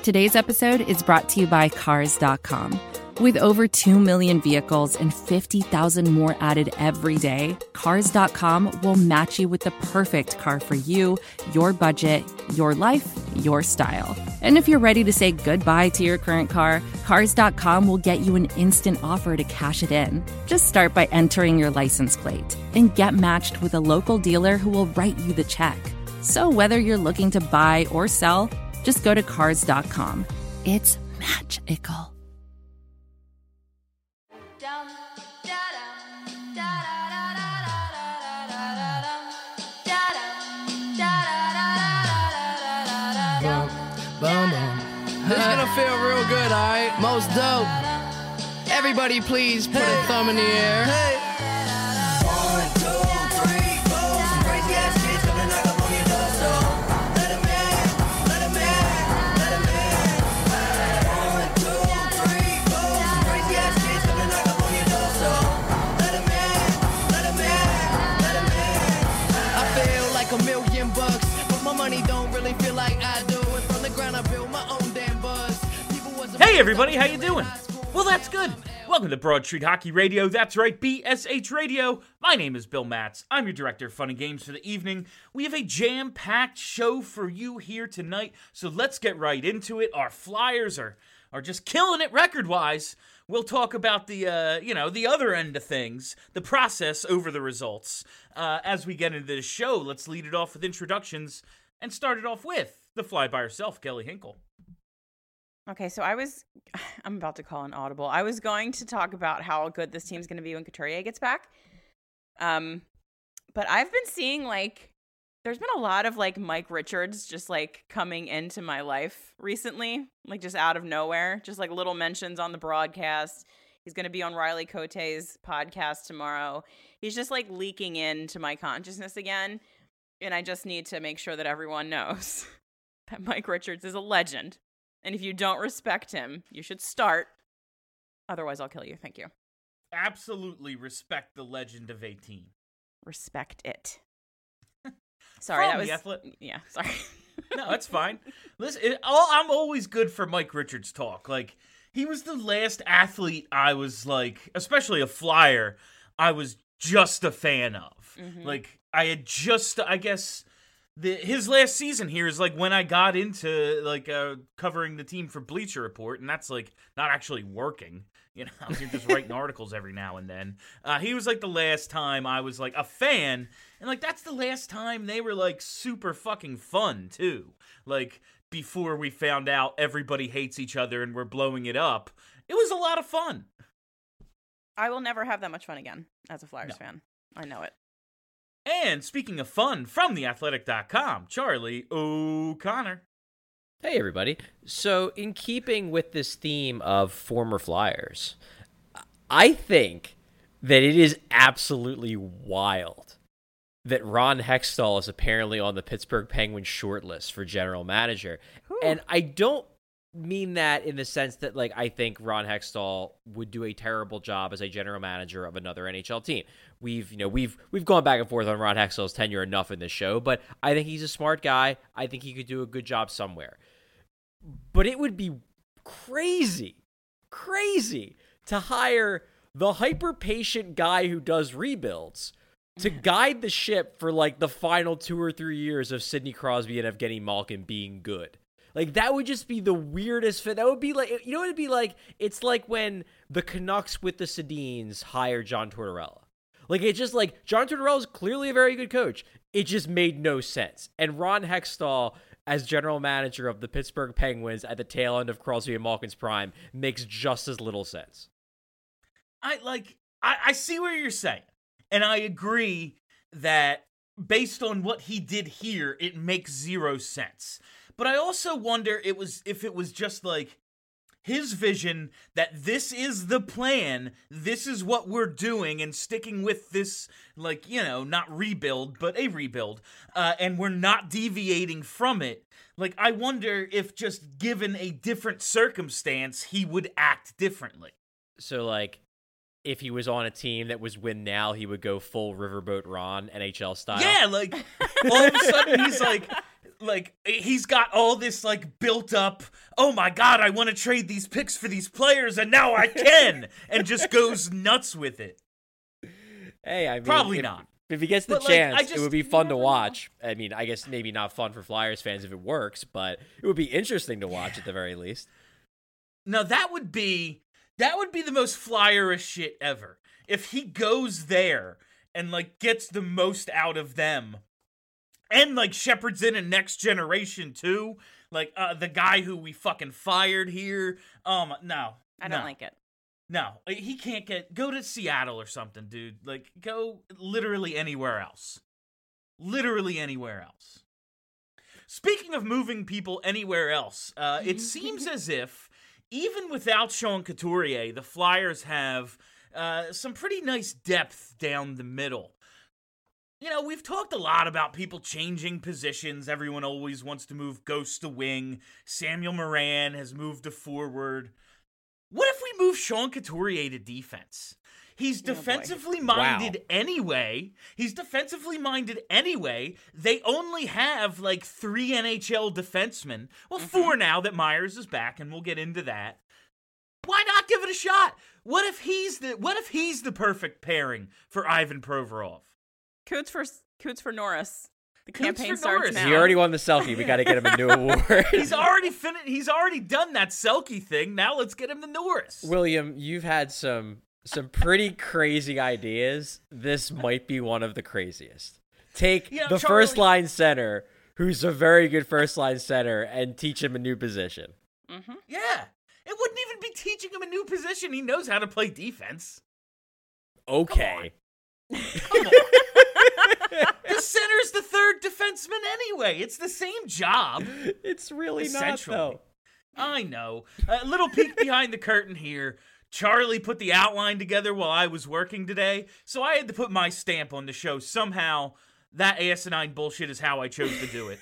Today's episode is brought to you by Cars.com. With over 2 million vehicles and 50,000 more added every day, Cars.com will match you with the perfect car for you, your budget, your life, your style. And if you're ready to say goodbye to your current car, Cars.com will get you an instant offer to cash it in. Just start by entering your license plate and get matched with a local dealer who will write you the check. So whether you're looking to buy or sell, just go to Cars.com. It's magical. This is gonna feel real good, alright? Most dope. Everybody please put a thumb in the air. Hey. 1, 2, 3, 4. Some crazy ass kids coming knock up on your door, so let 'em in, let 'em in, let 'em in. 1, 2, 3, 4. Some crazy ass kids coming knock up on your door, so let 'em in, let 'em in, let 'em in. I feel like $1,000,000, but my money don't really feel like I do. And from the ground I build my own damn buzz. Hey everybody, how you doing? Well, that's good. Welcome to Broad Street Hockey Radio. That's right, BSH Radio. My name is Bill Matz. I'm your director of fun and games for the evening. We have a jam-packed show for you here tonight, so let's get right into it. Our Flyers are just killing it record-wise. We'll talk about the other end of things, the process over the results. As we get into this show, let's lead it off with introductions and start it off with the fly by herself, Kelly Hinkle. Okay, so I'm about to call an audible. I was going to talk about how good this team's going to be when Couturier gets back. But I've been seeing, there's been a lot of, Mike Richards just, coming into my life recently. Just out of nowhere. Just, little mentions on the broadcast. He's going to be on Riley Cote's podcast tomorrow. He's just, leaking into my consciousness again. And I just need to make sure that everyone knows that Mike Richards is a legend. And if you don't respect him, you should start. Otherwise, I'll kill you. Thank you. Absolutely respect the legend of 18. Respect it. Sorry, that was... Yeah, sorry. No, that's fine. Listen, I'm always good for Mike Richards talk. He was the last athlete I was, especially a Flyer, I was just a fan of. Mm-hmm. I had just, I guess... his last season here is when I got into covering the team for Bleacher Report, and that's not actually working. You're just writing articles every now and then. He was the last time I was a fan, and that's the last time they were super fucking fun too. Before we found out everybody hates each other and we're blowing it up, it was a lot of fun. I will never have that much fun again as a Flyers fan. I know it. And speaking of fun, from theathletic.com, Charlie O'Connor. Hey, everybody. So, in keeping with this theme of former Flyers, I think that it is absolutely wild that Ron Hextall is apparently on the Pittsburgh Penguins shortlist for general manager. Ooh. And I don't mean that in the sense that I think Ron Hextall would do a terrible job as a general manager of another NHL team. We've gone back and forth on Ron Hextall's tenure enough in this show, but I think he's a smart guy. I think he could do a good job somewhere. But it would be crazy to hire the hyper-patient guy who does rebuilds to guide the ship for the final 2 or 3 years of Sidney Crosby and Evgeny Malkin being good. That would just be the weirdest fit. That would be you know what it'd be like? It's like when the Canucks with the Sedins hired John Tortorella. It's just John Tortorella is clearly a very good coach. It just made no sense. And Ron Hextall, as general manager of the Pittsburgh Penguins at the tail end of Crosby and Malkin's prime, makes just as little sense. I see what you're saying. And I agree that based on what he did here, it makes zero sense. But I also wonder if it was just his vision that this is the plan, this is what we're doing, and sticking with this, not rebuild, but a rebuild, and we're not deviating from it. I wonder if just given a different circumstance, he would act differently. So, if he was on a team that was win now, he would go full Riverboat Ron, NHL style. Yeah, all of a sudden he's like, he's got all this, like, built up, oh my god, I want to trade these picks for these players, and now I can, and just goes nuts with it. Hey, I mean, Probably not. If he gets the But, like, chance, I it would be fun to never know. watch. I mean, I guess maybe not fun for Flyers fans if it works, but it would be interesting to watch at the very least. Now, that would be the most Flyerish shit ever. If he goes there and, like, gets the most out of them, and, like, shepherds in a next generation, too. Like, the guy who we fucking fired here. No. I don't like it. No, he can't go to Seattle or something, dude. Like, go literally anywhere else. Literally anywhere else. Speaking of moving people anywhere else, it seems as if, even without Sean Couturier, the Flyers have some pretty nice depth down the middle. You know, we've talked a lot about people changing positions. Everyone always wants to move Ghost to wing. Samuel Morin has moved to forward. What if we move Sean Couturier to defense? He's defensively minded anyway. They only have like 3 NHL defensemen. Well, 4 now that Myers is back, and we'll get into that. Why not give it a shot? What if he's the perfect pairing for Ivan Provorov? Coots for Norris. The Coots campaign for starts Norris. now. He already won the Selkie. We got to get him a new award. He's already done that Selke thing. Now let's get him the Norris. William, you've had some pretty crazy ideas. This might be one of the craziest. Take You know, the Charlie- first line center, who's a very good first line center, and teach him a new position. Yeah. It wouldn't even be teaching him a new position. He knows how to play defense. Okay. Come on. The center's the third defenseman anyway. It's the same job. It's really not, Essentially. though. I know. A little peek behind the curtain here. Charlie put the outline together while I was working today, so I had to put my stamp on the show. Somehow, that asinine bullshit is how I chose to do it.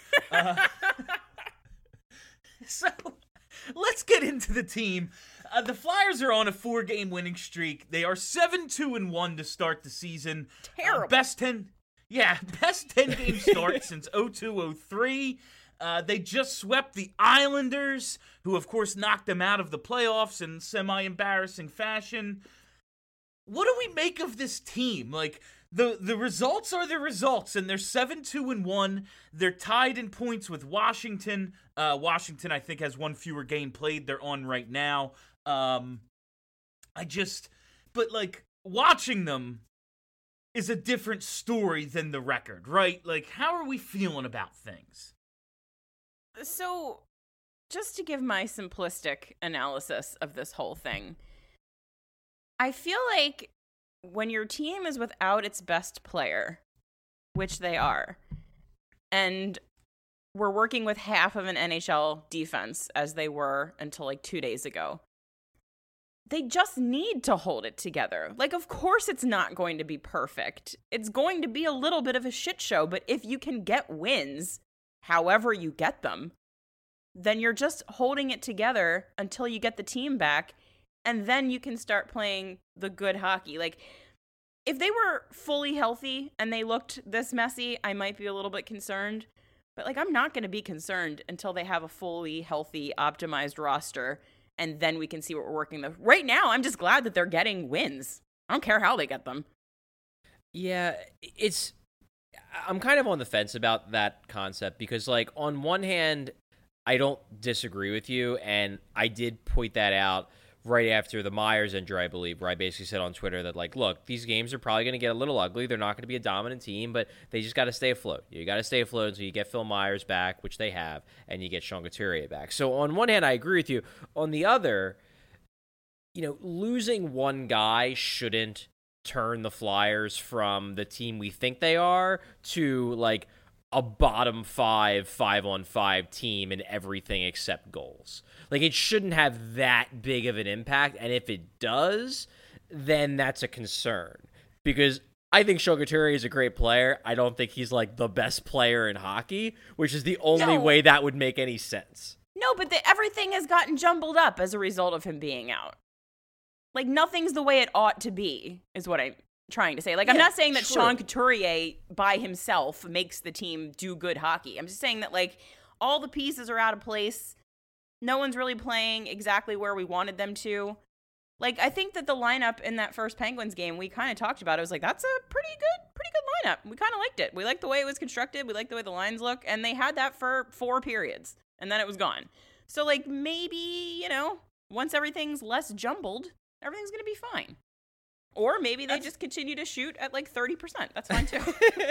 So, let's get into the team. The Flyers are on a 4-game winning streak. They are 7-2-1 to start the season. Terrible. Best 10-game start since 02-03. They just swept the Islanders, who of course knocked them out of the playoffs in semi-embarrassing fashion. What do we make of this team? Like, the results are the results, and they're 7-2-1. They're tied in points with Washington. Washington, I think, has 1 fewer game played. They're on right now. But like, watching them is a different story than the record, right? Like, how are we feeling about things? So, just to give my simplistic analysis of this whole thing, I feel like when your team is without its best player, which they are, and we're working with half of an NHL defense as they were until like 2 days ago, they just need to hold it together. Like, of course it's not going to be perfect. It's going to be a little bit of a shit show, but if you can get wins, however you get them, then you're just holding it together until you get the team back, and then you can start playing the good hockey. Like, if they were fully healthy and they looked this messy, I might be a little bit concerned. But, like, I'm not going to be concerned until they have a fully healthy, optimized roster, and then we can see what we're working with. Right now, I'm just glad that they're getting wins. I don't care how they get them. Yeah, I'm kind of on the fence about that concept because, like, on one hand, I don't disagree with you, and I did point that out right after the Myers injury, I believe, where I basically said on Twitter that, like, look, these games are probably going to get a little ugly. They're not going to be a dominant team, but they just got to stay afloat. You got to stay afloat until you get Phil Myers back, which they have, and you get Sean Couturier back. So on one hand, I agree with you. On the other, you know, losing one guy shouldn't turn the Flyers from the team we think they are to, like, a bottom 5-on-5 team in everything except goals. Like, it shouldn't have that big of an impact, and if it does, then that's a concern. Because I think Sean Couturier is a great player. I don't think he's, like, the best player in hockey, which is the only way that would make any sense. No, but everything has gotten jumbled up as a result of him being out. Like, nothing's the way it ought to be, is what trying to say. Like, I'm not saying that true. Sean Couturier by himself makes the team do good hockey. I'm just saying that, like, all the pieces are out of place. No one's really playing exactly where we wanted them to. Like, I think that the lineup in that first Penguins game, we kind of talked about it. I was like, that's a pretty good lineup. We kind of liked it. We liked the way it was constructed. We liked the way the lines look. And they had that for 4 periods. And then it was gone. So, like, maybe, you know, once everything's less jumbled, everything's going to be fine. Or maybe they just continue to shoot at, like, 30%. That's fine, too.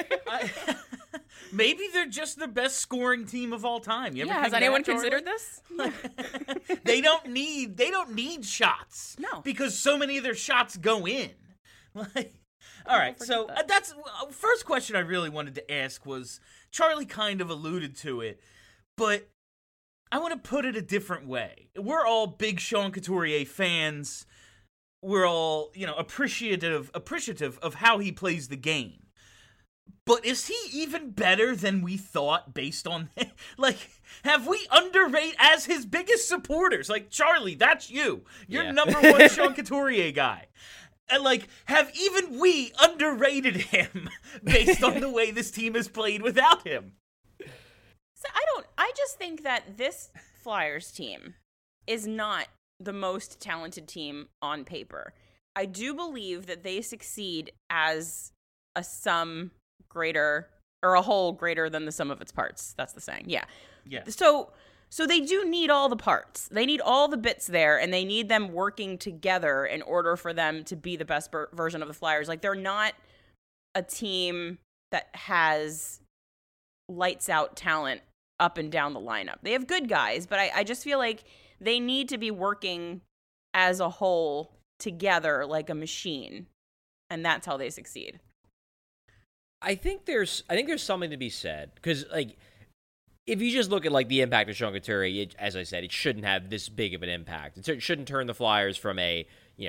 Maybe they're just the best scoring team of all time. You ever Yeah, think has of anyone that, Charlie? considered this? They don't need shots. No. Because so many of their shots go in. Like, all right, so forget that. that's first question I really wanted to ask was, Charlie kind of alluded to it, but I want to put it a different way. We're all big Sean Couturier fans. We're all, you know, appreciative of how he plays the game. But is he even better than we thought based on, like, have we underrated as his biggest supporters? Like, Charlie, that's you. You're Yeah. number one Sean Couturier guy. And, like, have even we underrated him based on the way this team has played without him? So I just think that this Flyers team is not the most talented team on paper. I do believe that they succeed as a sum greater, or a whole greater than the sum of its parts. That's the saying. Yeah. Yeah. So they do need all the parts. They need all the bits there, and they need them working together in order for them to be the best version of the Flyers. Like, they're not a team that has lights out talent up and down the lineup. They have good guys, but I just feel like they need to be working as a whole together like a machine, and that's how they succeed. I think there's something to be said, because, like, if you just look at, like, the impact of Sean Couturier, as I said, it shouldn't have this big of an impact. It shouldn't turn the Flyers from a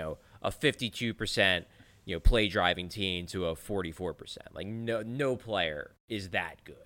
52%, play driving team to a 44%. Like, no player is that good.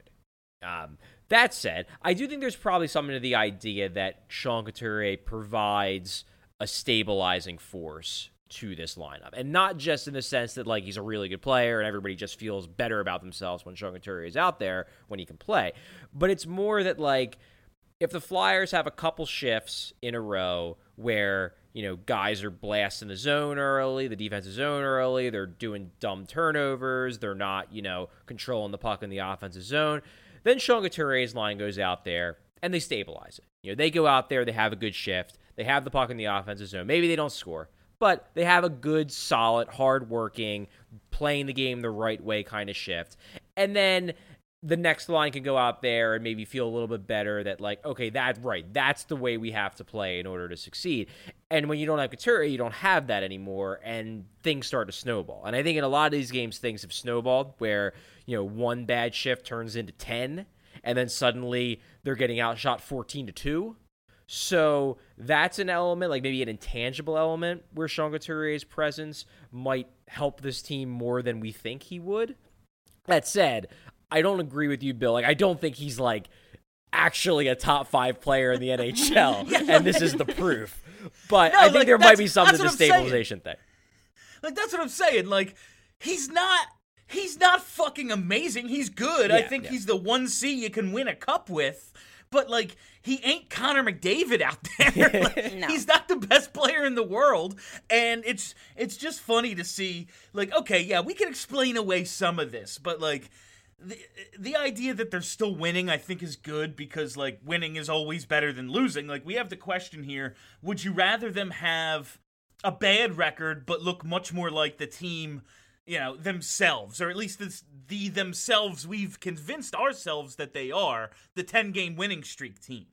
That said, I do think there's probably something to the idea that Sean Couturier provides a stabilizing force to this lineup. And not just in the sense that, like, he's a really good player and everybody just feels better about themselves when Sean Couturier is out there when he can play. But it's more that, like, if the Flyers have a couple shifts in a row where, guys are blasting the zone early, the defensive zone early, they're doing dumb turnovers, they're not, controlling the puck in the offensive zone, then Sean Couturier's line goes out there and they stabilize it. They go out there, they have a good shift, they have the puck in the offensive zone. Maybe they don't score, but they have a good, solid, hard-working, playing the game the right way kind of shift. And then the next line can go out there and maybe feel a little bit better that, like, okay, that's the way we have to play in order to succeed. And when you don't have Couturier, you don't have that anymore, and things start to snowball. And I think in a lot of these games, things have snowballed where, one bad shift turns into 10, and then suddenly they're getting outshot 14-2. So that's an element, like maybe an intangible element, where Sean Couturier's presence might help this team more than we think he would. That said, I don't agree with you, Bill. Like, I don't think he's, like, actually a top 5 player in the NHL, and this is the proof. But No, I think like, there might be something to the that's what I'm saying. stabilization thing. Like, that's what I'm saying. Like, he's not fucking amazing. He's good. I think he's the 1C you can win a cup with. But, like, he ain't Connor McDavid out there. Like, No. He's not the best player in the world. And it's just funny to see, like, okay, yeah, we can explain away some of this. But, like, the idea that they're still winning, I think, is good because, like, winning is always better than losing. Like, we have the question here, would you rather them have a bad record but look much more like the team, themselves, or at least the themselves we've convinced ourselves that they are, the 10-game winning streak team,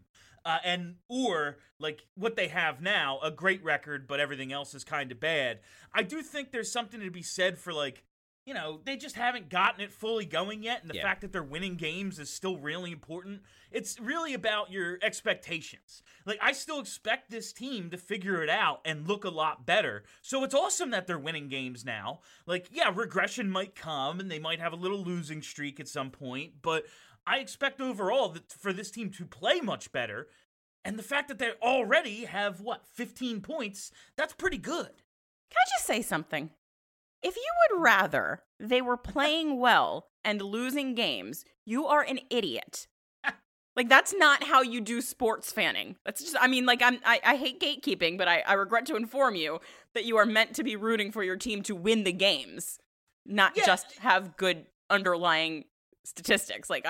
or like what they have now, a great record but everything else is kind of bad. I do think there's something to be said for, like, they just haven't gotten it fully going yet, and the fact that they're winning games is still really important. It's really about your expectations. Like, I still expect this team to figure it out and look a lot better. So it's awesome that they're winning games now. Like, yeah, regression might come, and they might have a little losing streak at some point, but I expect overall for this team to play much better. And the fact that they already have, 15 points, that's pretty good. Can I just say something? If you would rather they were playing well and losing games, you are an idiot. Like, that's not how you do sports fanning. That's just, I mean, like, I hate gatekeeping, but I regret to inform you that you are meant to be rooting for your team to win the games, not just have good underlying statistics. Like,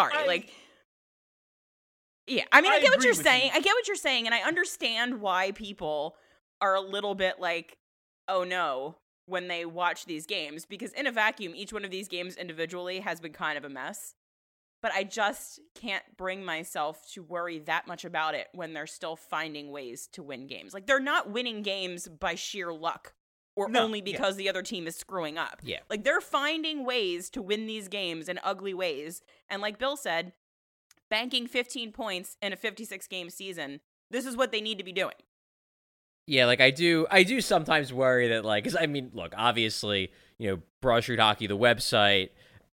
yeah, I mean, I get what you're saying. I get what you're saying, and I understand why people are a little bit like, oh no, when they watch these games, because in a vacuum, each one of these games individually has been kind of a mess. But I just can't bring myself to worry that much about it when they're still finding ways to win games. Like, they're not winning games by sheer luck or only because the other team is screwing up. Yeah. Like, they're finding ways to win these games in ugly ways. And like Bill said, banking 15 points in a 56-game season, this is what they need to be doing. Yeah, like I do sometimes worry that, like, because I mean, look, obviously, Broad Street Hockey, the website,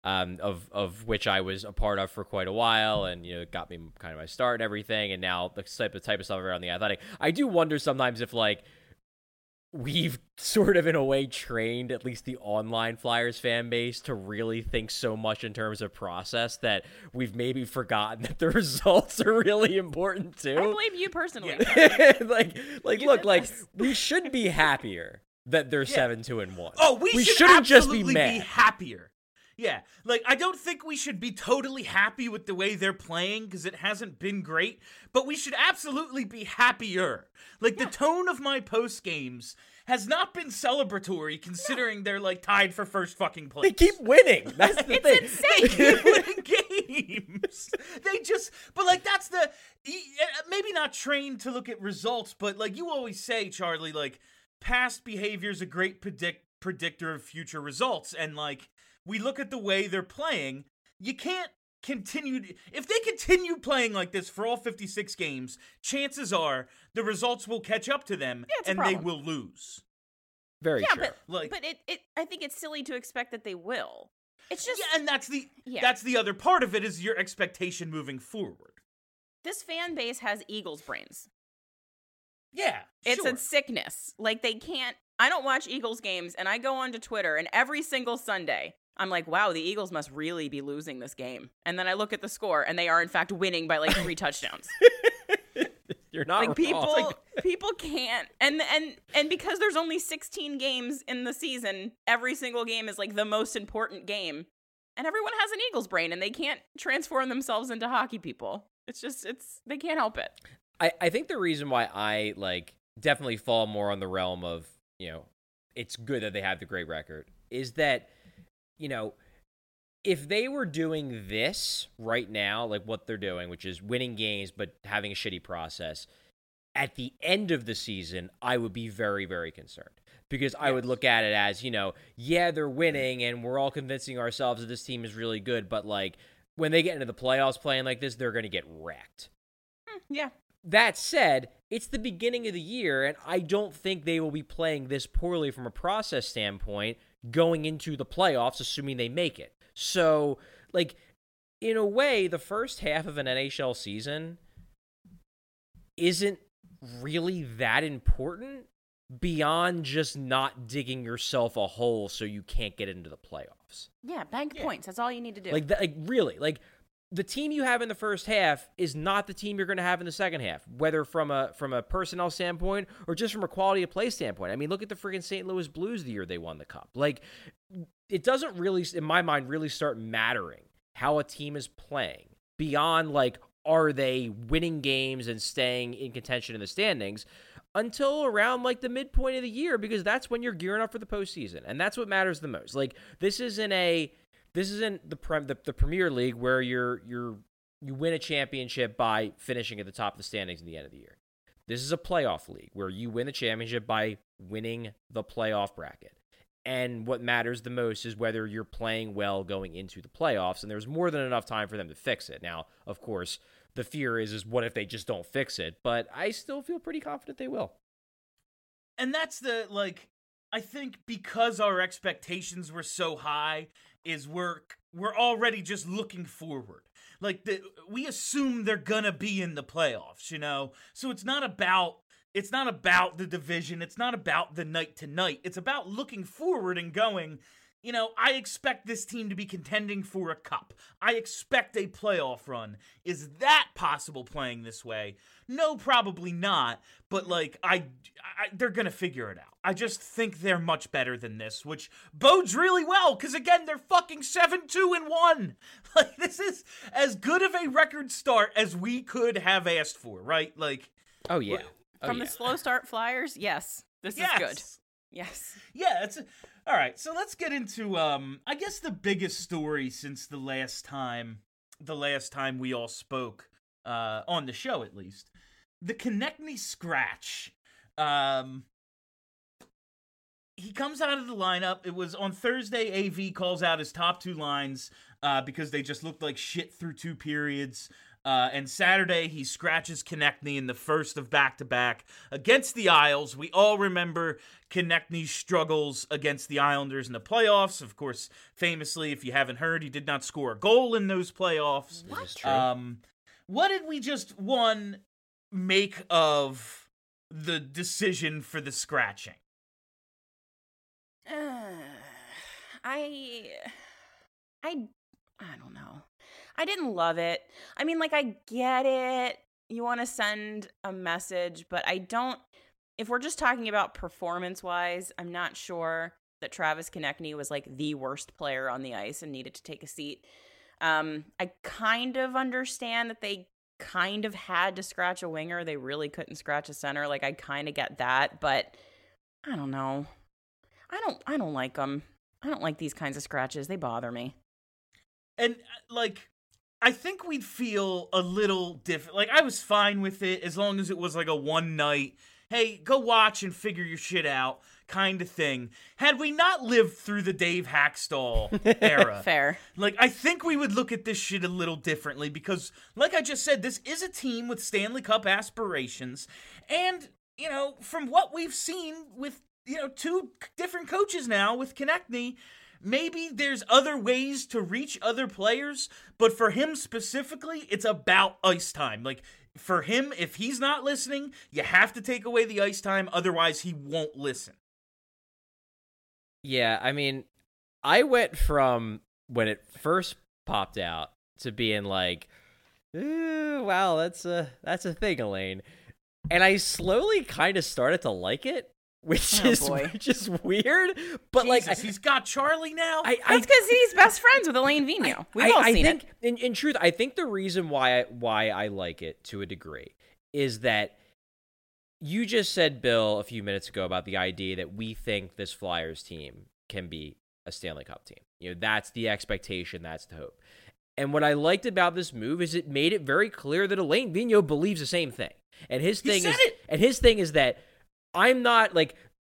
of which I was a part of for quite a while, and it got me kind of my start and everything, and now the type of stuff around the Athletic. I do wonder sometimes if, like, we've sort of in a way trained at least the online Flyers fan base to really think so much in terms of process that we've maybe forgotten that the results are really important too. I blame you personally. like look, like, we should be happier that they're 7-2-1. Oh, we shouldn't just be absolutely mad. be happier. Yeah, like, I don't think we should be totally happy with the way they're playing because it hasn't been great, but we should absolutely be happier. Like, the tone of my post games has not been celebratory considering they're, like, tied for first fucking place. They keep winning. That's the thing. Insane. They keep winning games. But, like, that's maybe not trained to look at results, but, like, you always say, Charlie, like, past behavior's a great predictor of future results, and, like, we look at the way they're playing. You can't continue. If they continue playing like this for all 56 games, chances are the results will catch up to them and they will lose. Very true. But I think it's silly to expect that they will. It's just and that's the other part of it is your expectation moving forward. This fan base has Eagles brains. Yeah, it's a sickness. Like, they can't. I don't watch Eagles games, and I go onto Twitter, and every single Sunday, I'm like, wow, the Eagles must really be losing this game. And then I look at the score, and they are, in fact, winning by, like, 3 touchdowns. You're not like, wrong. People can't. And because there's only 16 games in the season, every single game is, like, the most important game. And everyone has an Eagles brain, and they can't transform themselves into hockey people. They can't help it. I think the reason why I, like, definitely fall more on the realm of, it's good that they have the great record is that, if they were doing this right now, like what they're doing, which is winning games but having a shitty process, at the end of the season, I would be very, very concerned. Because I would look at it as, they're winning and we're all convincing ourselves that this team is really good, but, like, when they get into the playoffs playing like this, they're going to get wrecked. Yeah. That said, it's the beginning of the year, and I don't think they will be playing this poorly from a process standpoint going into the playoffs, assuming they make it. So, like, in a way, the first half of an NHL season isn't really that important beyond just not digging yourself a hole so you can't get into the playoffs. Yeah, bank points. That's all you need to do. Really, the team you have in the first half is not the team you're going to have in the second half, whether from a personnel standpoint or just from a quality of play standpoint. I mean, look at the freaking St. Louis Blues the year they won the Cup. Like, it doesn't really, in my mind, really start mattering how a team is playing beyond, like, are they winning games and staying in contention in the standings until around, like, the midpoint of the year, because that's when you're gearing up for the postseason, and that's what matters the most. Like, this isn't the Premier League where you win a championship by finishing at the top of the standings at the end of the year. This is a playoff league where you win the championship by winning the playoff bracket. And what matters the most is whether you're playing well going into the playoffs, and there's more than enough time for them to fix it. Now, of course, the fear is what if they just don't fix it? But I still feel pretty confident they will. And that's I think because our expectations were so high, is we're already just looking forward. Like, we assume they're gonna be in the playoffs, So it's not about it's not about the division. It's not about the night to night. It's about looking forward and going, you know, I expect this team to be contending for a cup. I expect a playoff run. Is that possible playing this way? No, probably not. But, like, they're going to figure it out. I just think they're much better than this, which bodes really well, because, again, they're fucking 7-2-1. Like, this is as good of a record start as we could have asked for, right? Like, Oh yeah. From the slow start Flyers, yes, this is good. Yes. Yeah, all right. So let's get into I guess the biggest story since the last time we all spoke on the show, at least, the Konechny scratch. He comes out of the lineup. It was on Thursday. AV calls out his top two lines because they just looked like shit through two periods. And Saturday, he scratches Konechny in the first of back-to-back against the Isles. We all remember Konechny's struggles against the Islanders in the playoffs. Of course, famously, if you haven't heard, he did not score a goal in those playoffs. This is true. What did we just, make of the decision for the scratching? I don't know. I didn't love it. I mean, like, I get it. You want to send a message, but I don't. If we're just talking about performance-wise, I'm not sure that Travis Konechny was, like, the worst player on the ice and needed to take a seat. I kind of understand that they kind of had to scratch a winger. They really couldn't scratch a center. Like, I kind of get that, but I don't know. I don't like them. I don't like these kinds of scratches. They bother me. And, like, I think we'd feel a little different. Like, I was fine with it as long as it was, like, a one night, hey, go watch and figure your shit out kind of thing. Had we not lived through the Dave Hackstall era, Fair. like, I think we would look at this shit a little differently because, like I just said, this is a team with Stanley Cup aspirations. And, you know, from what we've seen with, you know, two different coaches now with Konechny, maybe there's other ways to reach other players, but for him specifically, it's about ice time. Like, for him, if he's not listening, you have to take away the ice time, otherwise he won't listen. Yeah, I mean, I went from when it first popped out to being like, "Ooh, wow, that's a thing, Elaine," and I slowly kind of started to like it. Which is weird, but Jesus, like he's got Charlie now. That's because he's best friends with Elaine Vigneault. We've all seen think, it. In truth, I think the reason why I like it to a degree is that you just said, Bill, a few minutes ago about the idea that we think this Flyers team can be a Stanley Cup team. You know, that's the expectation, that's the hope. And what I liked about this move is it made it very clear that Elaine Vigneault believes the same thing. And his thing is that I'm not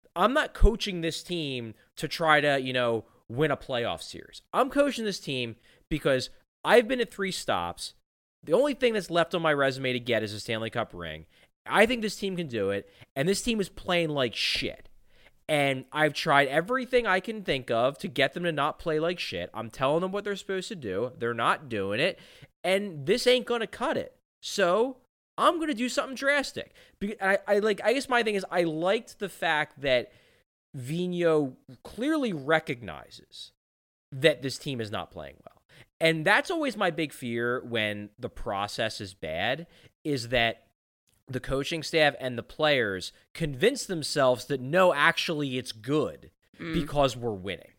coaching this team to try to, you know, win a playoff series. I'm coaching this team because I've been at 3 stops. The only thing that's left on my resume to get is a Stanley Cup ring. I think this team can do it, and this team is playing like shit. And I've tried everything I can think of to get them to not play like shit. I'm telling them what they're supposed to do. They're not doing it, and this ain't going to cut it. So I'm going to do something drastic. I guess my thing is I liked the fact that Vigneault clearly recognizes that this team is not playing well. And that's always my big fear when the process is bad, is that the coaching staff and the players convince themselves that no, actually it's good because we're winning.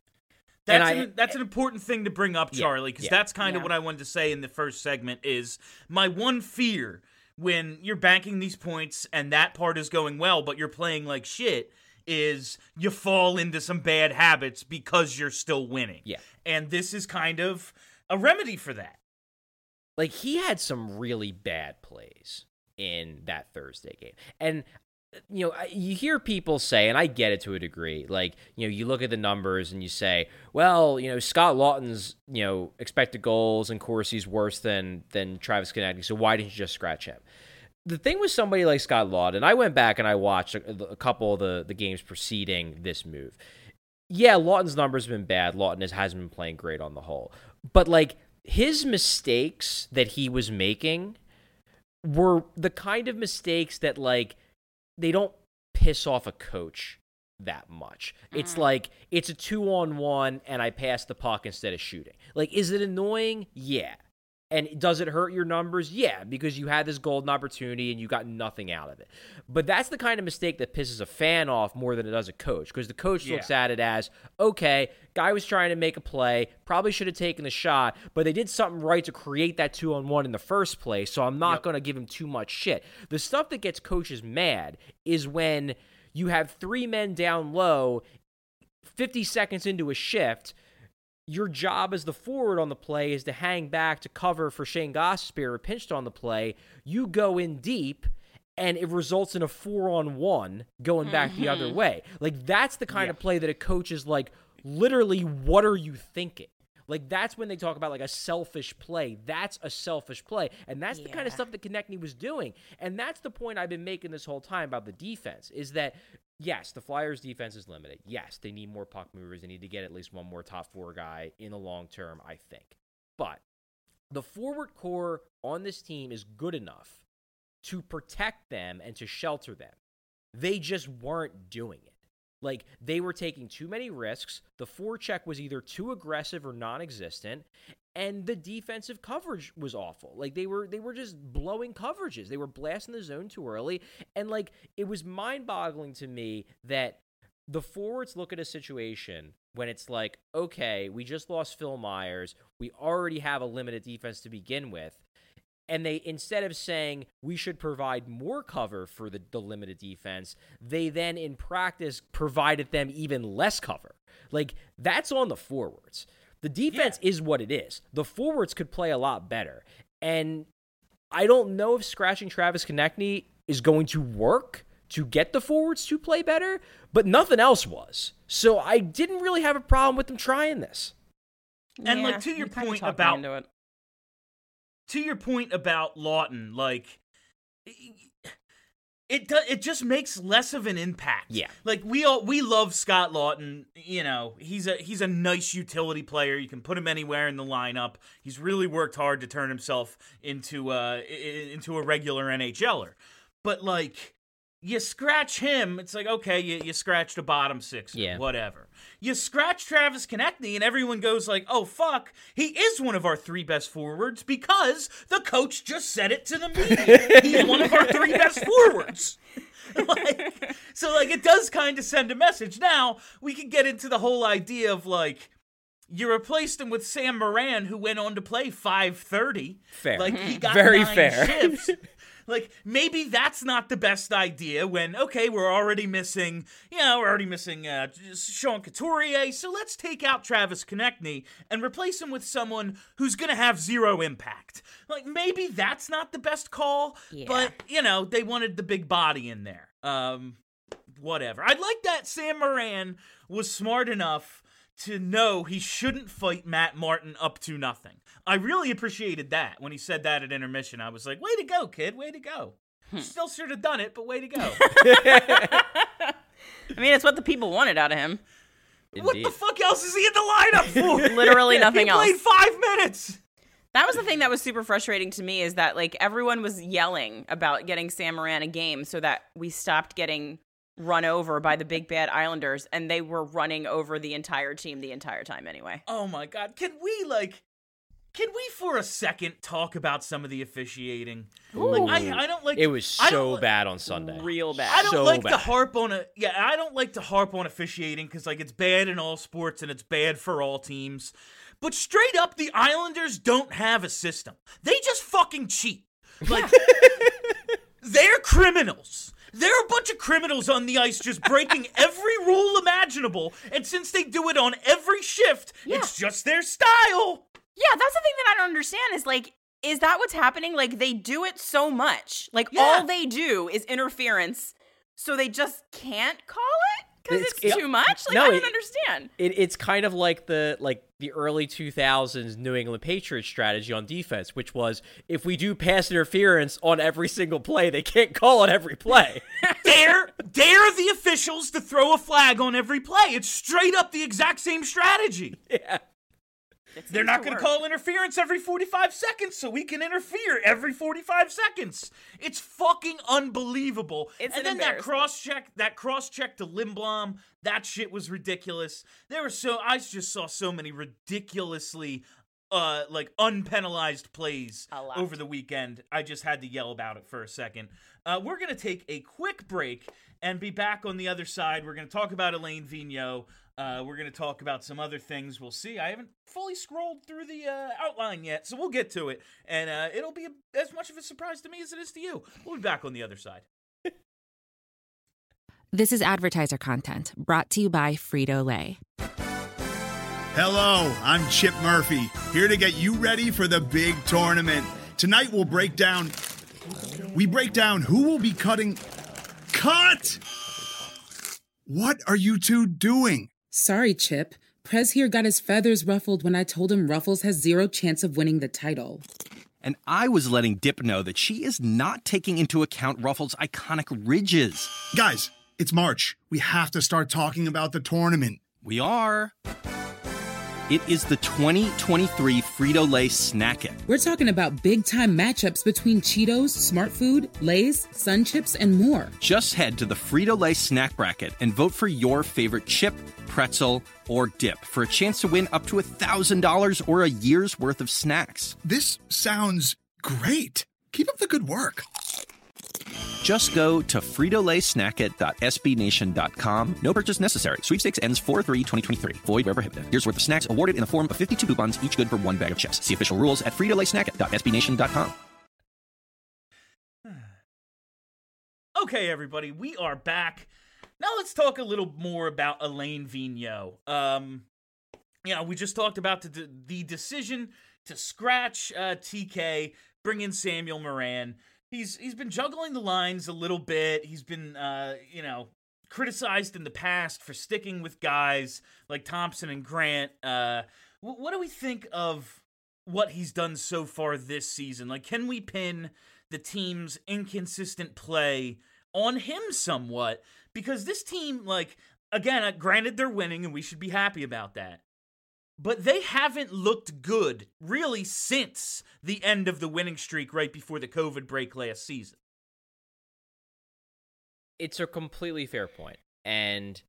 That's an important thing to bring up, Charlie, because that's kind of what I wanted to say in the first segment is my one fear when you're banking these points and that part is going well, but you're playing like shit, is you fall into some bad habits because you're still winning. Yeah. And this is kind of a remedy for that. Like, he had some really bad plays in that Thursday game. And, you know, you hear people say, and I get it to a degree, like, you know, you look at the numbers and you say, well, you know, Scott Lawton's, you know, expected goals and Corsi's worse than Travis Konechny, so why didn't you just scratch him? The thing with somebody like Scott Lawton, I went back and I watched a couple of the games preceding this move. Yeah, Lawton's numbers have been bad. Lawton hasn't been playing great on the whole. But, like, his mistakes that he was making were the kind of mistakes that, like, they don't piss off a coach that much. It's like it's a 2-on-1 and I pass the puck instead of shooting. Like, is it annoying? Yeah. And does it hurt your numbers? Yeah, because you had this golden opportunity and you got nothing out of it. But that's the kind of mistake that pisses a fan off more than it does a coach, because the coach looks at it as, okay, guy was trying to make a play, probably should have taken the shot, but they did something right to create that 2-on-1 in the first place, so I'm not going to give him too much shit. The stuff that gets coaches mad is when you have 3 men down low, 50 seconds into a shift. Your job as the forward on the play is to hang back to cover for Shane Gostisbehere pinched on the play. You go in deep, and it results in a 4-on-1 going back the other way. Like, that's the kind of play that a coach is like, literally, what are you thinking? Like, that's when they talk about, like, a selfish play. That's a selfish play. And that's the kind of stuff that Konechny was doing. And that's the point I've been making this whole time about the defense, is that, yes, the Flyers' defense is limited. Yes, they need more puck movers. They need to get at least one more top 4 guy in the long term, I think. But the forward core on this team is good enough to protect them and to shelter them. They just weren't doing it. Like, they were taking too many risks. The forecheck was either too aggressive or non-existent, and the defensive coverage was awful. Like, they were just blowing coverages. They were blasting the zone too early, and, like, it was mind-boggling to me that the forwards look at a situation when it's like, okay, we just lost Phil Myers. We already have a limited defense to begin with. And they, instead of saying we should provide more cover for the limited defense, they then in practice provided them even less cover. Like, that's on the forwards. The defense is what it is. The forwards could play a lot better. And I don't know if scratching Travis Konechny is going to work to get the forwards to play better, but nothing else was. So I didn't really have a problem with them trying this. And like, to your point about Laughton, like, it just makes less of an impact. Yeah. Like, we love Scott Laughton. You know, he's a nice utility player. You can put him anywhere in the lineup. He's really worked hard to turn himself into a regular NHLer. But, like, you scratch him, it's like, okay, you scratched a bottom 6, whatever. You scratch Travis Konechny, and everyone goes like, oh, fuck, he is one of our 3 best forwards because the coach just said it to the media. He's one of our 3 best forwards. So, it does kind of send a message. Now, we can get into the whole idea of, like, you replaced him with Sam Morin, who went on to play 530. Fair. Like, he got Very 9 fair. shifts. Like, maybe that's not the best idea when, okay, we're already missing Sean Couturier, so let's take out Travis Konechny and replace him with someone who's going to have 0 impact. Like, maybe that's not the best call, but, they wanted the big body in there. Whatever. I'd like that Sam Morin was smart enough to know he shouldn't fight Matt Martin up to nothing. I really appreciated that when he said that at intermission. I was like, way to go, kid, way to go. Still should have done it, but way to go. I mean, it's what the people wanted out of him. Indeed. What the fuck else is he in the lineup for? Literally nothing else. He played 5 minutes. That was the thing that was super frustrating to me, is that, like, everyone was yelling about getting Sam Morin a game so that we stopped getting run over by the big bad Islanders, and they were running over the entire team the entire time anyway. Oh my God. Can we for a second talk about some of the officiating? Like, I don't like it was so bad on Sunday. Real bad. I don't so like bad. to harp on I don't like to harp on officiating because, like, it's bad in all sports and it's bad for all teams. But straight up, the Islanders don't have a system. They just fucking cheat. Like, they're criminals. There are a bunch of criminals on the ice just breaking every rule imaginable, and since they do it on every shift, it's just their style. Yeah, that's the thing that I don't understand is, like, is that what's happening? Like, they do it so much. Like, all they do is interference, so they just can't call it? Because it's too much? Like, I don't understand. It's kind of like the early 2000s New England Patriots strategy on defense, which was, if we do pass interference on every single play, they can't call it every play. Dare the officials to throw a flag on every play. It's straight up the exact same strategy. Yeah. They're not going work. to call interference every 45 seconds, so we can interfere every 45 seconds. It's fucking unbelievable. It's and an then embarrassment. that cross check to Lindblom, that shit was ridiculous. I just saw so many ridiculously unpenalized plays A lot. over the weekend. I just had to yell about it for a second. We're going to take a quick break and be back on the other side. We're going to talk about Alain Vigneault. We're going to talk about some other things. We'll see. I haven't fully scrolled through the outline yet, so we'll get to it. And it'll be as much of a surprise to me as it is to you. We'll be back on the other side. This is advertiser content brought to you by Frito-Lay. Hello, I'm Chip Murphy, here to get you ready for the big tournament. Tonight we break down who will be cutting. Cut! What are you two doing? Sorry, Chip. Prez here got his feathers ruffled when I told him Ruffles has zero chance of winning the title. And I was letting Dip know that she is not taking into account Ruffles' iconic ridges. Guys, it's March. We have to start talking about the tournament. We are. It is the 2023 Frito-Lay Snack It. We're talking about big-time matchups between Cheetos, Smart Food, Lay's, Sun Chips, and more. Just head to the Frito-Lay Snack Bracket and vote for your favorite chip, pretzel, or dip for a chance to win up to $1,000 or a year's worth of snacks. This sounds great. Keep up the good work. Just go to fritolaysnackit.sbnation.com. No purchase necessary. Sweepstakes ends 4/3/2023. Void where prohibited. Year's worth of snacks awarded in the form of 52 coupons, each good for one bag of chips. See official rules at fritolaysnackit.sbnation.com. Okay, everybody, we are back. Now let's talk a little more about Alain Vigneault. We just talked about the decision to scratch TK, bring in Samuel Moran. He's been juggling the lines a little bit. He's been, criticized in the past for sticking with guys like Thompson and Grant. What do we think of what he's done so far this season? Like, can we pin the team's inconsistent play on him somewhat? Because this team, again, granted they're winning and we should be happy about that, but they haven't looked good, really, since the end of the winning streak right before the COVID break last season. It's a completely fair point. And,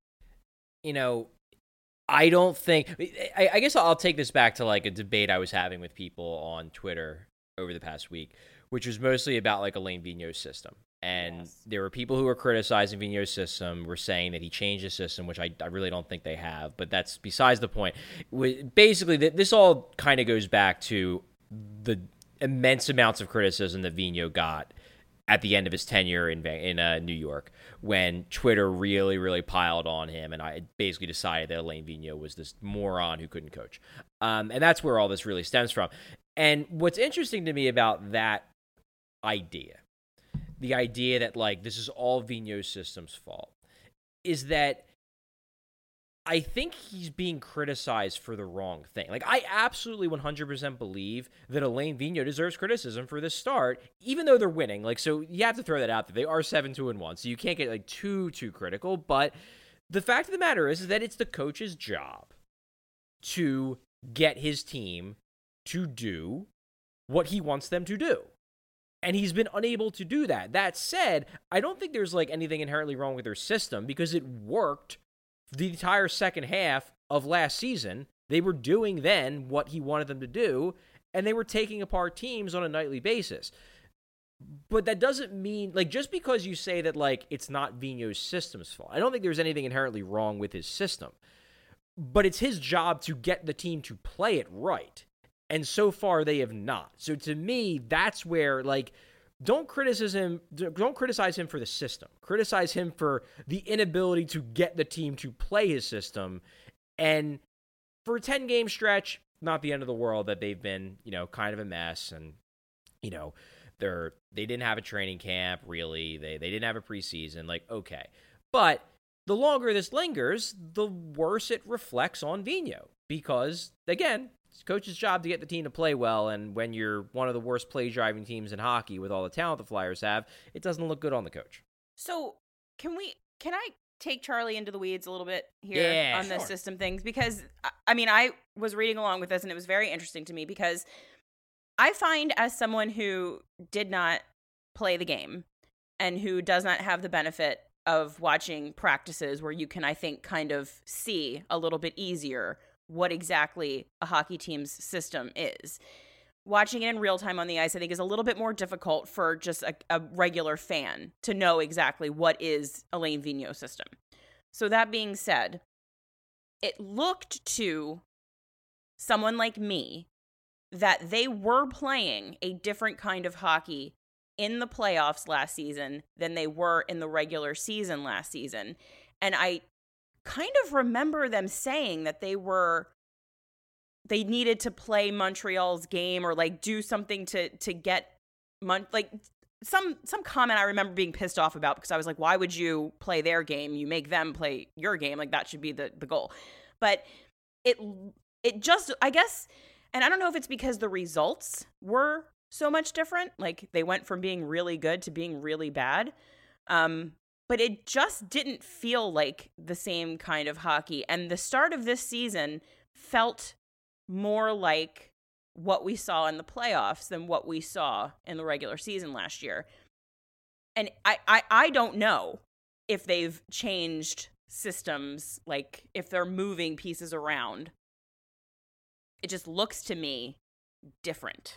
I don't think... I guess I'll take this back to, a debate I was having with people on Twitter over the past week, which was mostly about, Alain Vigneault's system. And there were people who were criticizing Vigneault's system, were saying that he changed his system, which I really don't think they have, but that's besides the point. Basically, this all kind of goes back to the immense amounts of criticism that Vigneault got at the end of his tenure in New York, when Twitter really, really piled on him, and I basically decided that Alain Vigneault was this moron who couldn't coach. And that's where all this really stems from. And what's interesting to me about that idea, the idea that, this is all Vigneault's system's fault, is that I think he's being criticized for the wrong thing. I absolutely 100% believe that Alain Vigneault deserves criticism for this start, even though they're winning. So you have to throw that out there. They are 7-2-1, so you can't get, too critical. But the fact of the matter is that it's the coach's job to get his team to do what he wants them to do. And he's been unable to do that. That said, I don't think there's anything inherently wrong with their system, because it worked the entire second half of last season. They were doing then what he wanted them to do, and they were taking apart teams on a nightly basis. But that doesn't mean, just because you say that, it's not Vigneault's system's fault, I don't think there's anything inherently wrong with his system. But it's his job to get the team to play it right. And so far, they have not. So to me, that's where, don't criticize him for the system. Criticize him for the inability to get the team to play his system. And for a 10-game stretch, not the end of the world that they've been, kind of a mess. And, they didn't have a training camp, really. They didn't have a preseason. Okay. But the longer this lingers, the worse it reflects on Vigneault. Because, again, it's coach's job to get the team to play well, and when you're one of the worst play-driving teams in hockey with all the talent the Flyers have, it doesn't look good on the coach. So, can I take Charlie into the weeds a little bit here on the system things? Because, I mean, I was reading along with this, and it was very interesting to me because I find, as someone who did not play the game and who does not have the benefit of watching practices where you can, I think, kind of see a little bit easier what exactly a hockey team's system is. Watching it in real time on the ice, I think, is a little bit more difficult for just a regular fan to know exactly what is Alain Vigneault's system. So that being said, it looked to someone like me that they were playing a different kind of hockey in the playoffs last season than they were in the regular season last season. And I kind of remember them saying that they needed to play Montreal's game or like do something to get some comment I remember being pissed off about, because I was like, why would you play their game? You make them play your game. Like, that should be the goal. But it just, I guess, and I don't know if it's because the results were so much different. Like, they went from being really good to being really bad. But it just didn't feel like the same kind of hockey. And the start of this season felt more like what we saw in the playoffs than what we saw in the regular season last year. And I don't know if they've changed systems, like if they're moving pieces around. It just looks to me different.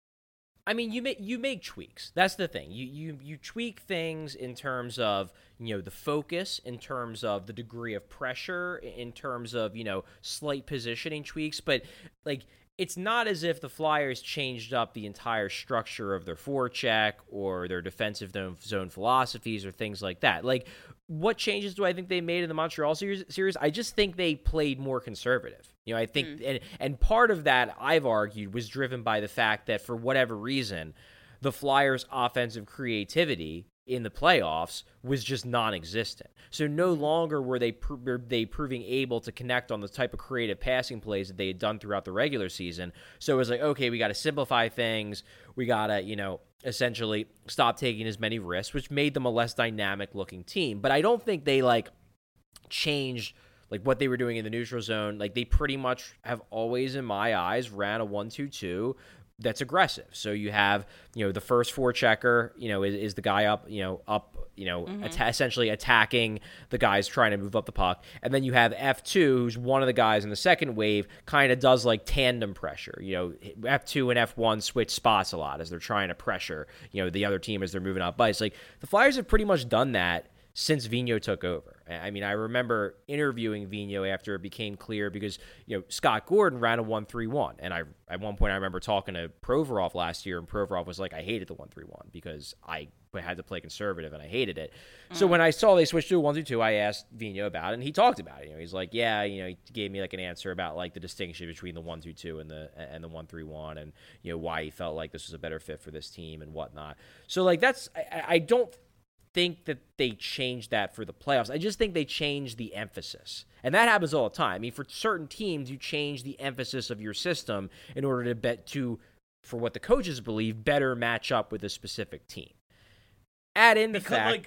I mean, you make tweaks. That's the thing. You tweak things in terms of, you know, the focus, in terms of the degree of pressure, in terms of, you know, slight positioning tweaks. But, like, it's not as if the Flyers changed up the entire structure of their forecheck or their defensive zone philosophies or things like that. Like, what changes do I think they made in the Montreal series? I just think they played more conservative. You know, I think, and part of that, I've argued, was driven by the fact that for whatever reason, the Flyers' offensive creativity in the playoffs was just non-existent. So no longer were they proving able to connect on the type of creative passing plays that they had done throughout the regular season. So it was like, okay, we got to simplify things. We got to, you know, essentially stop taking as many risks, which made them a less dynamic-looking team. But I don't think they, like, changed like what they were doing in the neutral zone. Like, they pretty much have always, in my eyes, ran a 1-2-2 that's aggressive. So you have, you know, the first forechecker, you know, is the guy up, essentially attacking the guys trying to move up the puck. And then you have F2, who's one of the guys in the second wave, kind of does like tandem pressure. You know, F2 and F1 switch spots a lot as they're trying to pressure, you know, the other team as they're moving up ice. Like, the Flyers have pretty much done that since Vigneault took over. I mean, I remember interviewing Vigneault after it became clear because, you know, Scott Gordon ran a 1-3-1. And at one point I remember talking to Provorov last year, and Provorov was like, I hated the 1-3-1 because I had to play conservative and I hated it. So when I saw they switched to a 1-2-2, I asked Vigneault about it, and he talked about it. You know, he's like, yeah, you know, he gave me like an answer about like the distinction between the 1-2-2 and the 1-3-1, and, you know, why he felt like this was a better fit for this team and whatnot. So like, that's, I don't think that they changed that for the playoffs. I just think they changed the emphasis. And that happens all the time. I mean, for certain teams, you change the emphasis of your system in order to for what the coaches believe, better match up with a specific team. Add in the fact...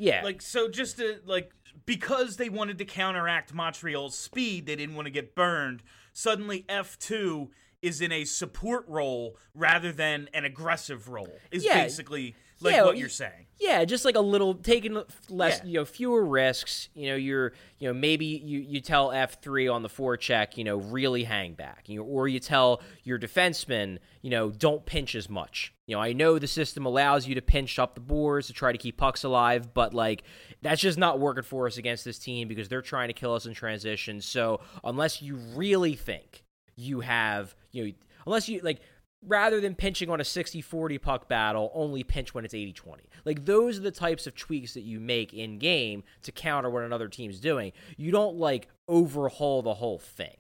So just to, like, because they wanted to counteract Montreal's speed, they didn't want to get burned, suddenly F2 is in a support role rather than an aggressive role, is basically... what you're saying. Yeah, just like a little, taking less, you know, fewer risks. You know, maybe you tell F3 on the forecheck, you know, really hang back. You know, or you tell your defenseman, you know, don't pinch as much. You know, I know the system allows you to pinch up the boards to try to keep pucks alive, but like, that's just not working for us against this team because they're trying to kill us in transition. So unless you really think you have, you know, unless you like, rather than pinching on a 60-40 puck battle, only pinch when it's 80-20. Like, those are the types of tweaks that you make in-game to counter what another team's doing. You don't, like, overhaul the whole thing.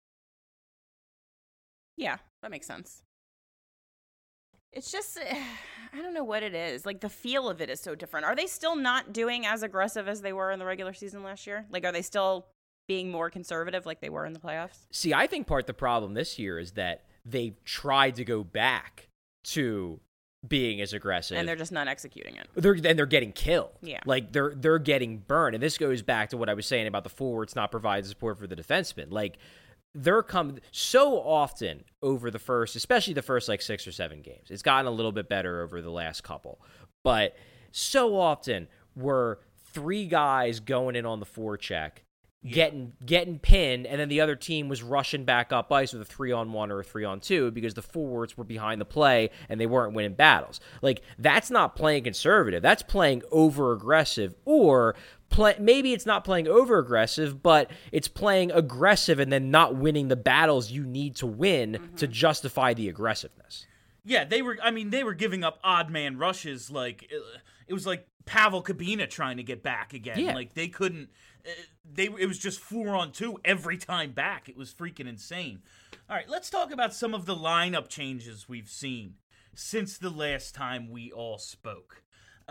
Yeah, that makes sense. It's just, I don't know what it is. Like, the feel of it is so different. Are they still not doing as aggressive as they were in the regular season last year? Like, are they still being more conservative like they were in the playoffs? See, I think part of the problem this year is that they tried to go back to being as aggressive. And they're just not executing it. They're getting killed. Yeah. Like they're getting burned. And this goes back to what I was saying about the forwards not providing support for the defensemen. Like they're so often over the first, especially the first like 6 or 7 games. It's gotten a little bit better over the last couple. But so often were 3 guys going in on the forecheck, getting pinned, and then the other team was rushing back up ice with a 3-on-1 or a 3-on-2 because the forwards were behind the play and they weren't winning battles. Like, that's not playing conservative. That's playing over-aggressive, or maybe it's not playing over-aggressive, but it's playing aggressive and then not winning the battles you need to win to justify the aggressiveness. Yeah, they were giving up odd man rushes. Like it was like Pavel Kabina trying to get back again. Yeah. Like they couldn't. It was just 4-on-2 every time back. It was freaking insane. All right, let's talk about some of the lineup changes we've seen since the last time we all spoke.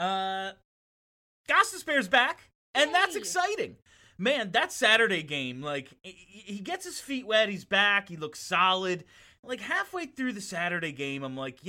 Gostisbehere's back, and that's exciting. Man, that Saturday game, like, he gets his feet wet, he's back, he looks solid. Like, halfway through the Saturday game, I'm like,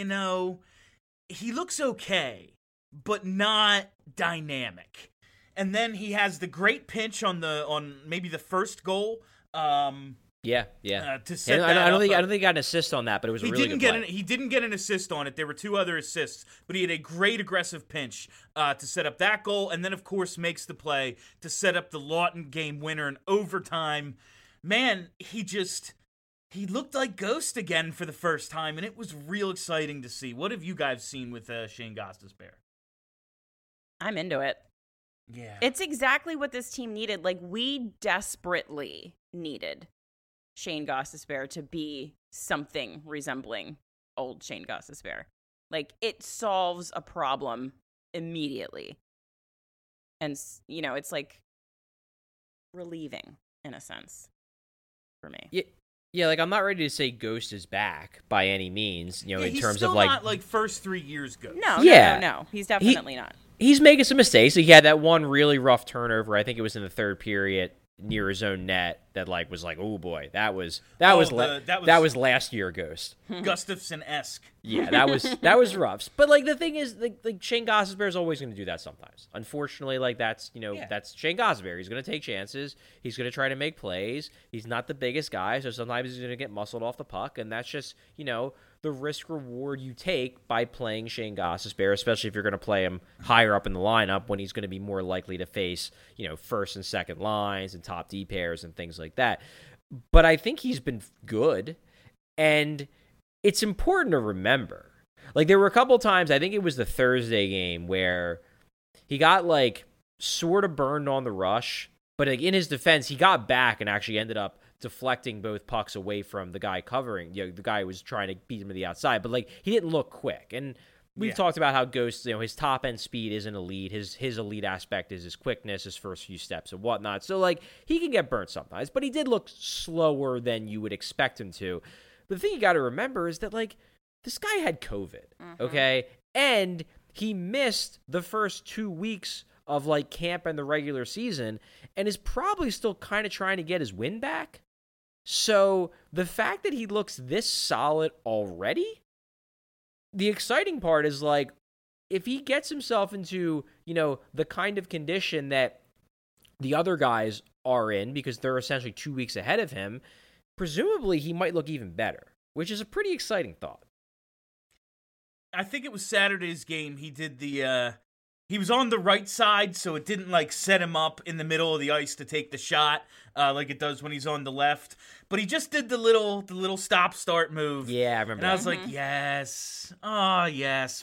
he looks okay, but not dynamic. And then he has the great pinch on maybe the first goal. Yeah. To set that I don't up. think he got an assist on that, but it was a really good play. He didn't get an assist on it. There were 2 other assists, but he had a great aggressive pinch to set up that goal, and then of course makes the play to set up the Lawton game winner in overtime. Man, he looked like Ghost again for the first time, and it was real exciting to see. What have you guys seen with Shane Gostisbehere? I'm into it. Yeah. It's exactly what this team needed. Like, we desperately needed Shane Gostisbehere to be something resembling old Shane Gostisbehere. Like, it solves a problem immediately. And, it's like relieving in a sense for me. Yeah, like, I'm not ready to say Ghost is back by any means, in terms of, like... He's still not, like, first 3 years Ghost. No. He's definitely not. He's making some mistakes. He had that one really rough turnover. I think it was in the third period near his own net that was like, oh boy, that was last year Ghost. Gustafsson-esque. Yeah, that was rough. But like the thing is, like Shane Gostisbehere is always going to do that sometimes. Unfortunately, like that's that's Shane Gostisbehere. He's going to take chances. He's going to try to make plays. He's not the biggest guy, so sometimes he's going to get muscled off the puck, and that's just the risk reward you take by playing Shane Gostisbehere, especially if you're going to play him higher up in the lineup when he's going to be more likely to face first and second lines and top D pairs and things like that. But I think he's been good, and it's important to remember. Like, there were a couple times, I think it was the Thursday game, where he got like sort of burned on the rush, but like in his defense, he got back and actually ended up deflecting both pucks away from the guy covering, the guy who was trying to beat him to the outside, but like he didn't look quick. And we've talked about how Ghost, his top end speed isn't elite. His elite aspect is his quickness, his first few steps and whatnot. So like he can get burnt sometimes, but he did look slower than you would expect him to. But the thing you got to remember is that like this guy had COVID, okay? And he missed the first 2 weeks of like camp and the regular season and is probably still kind of trying to get his win back. So the fact that he looks this solid already, the exciting part is like, if he gets himself into, the kind of condition that the other guys are in, because they're essentially 2 weeks ahead of him, presumably he might look even better, which is a pretty exciting thought. I think it was Saturday's game. He did he was on the right side, so it didn't like set him up in the middle of the ice to take the shot like it does when he's on the left. But he just did the little stop-start move. Yeah, I remember. And I was like, yes, oh yes,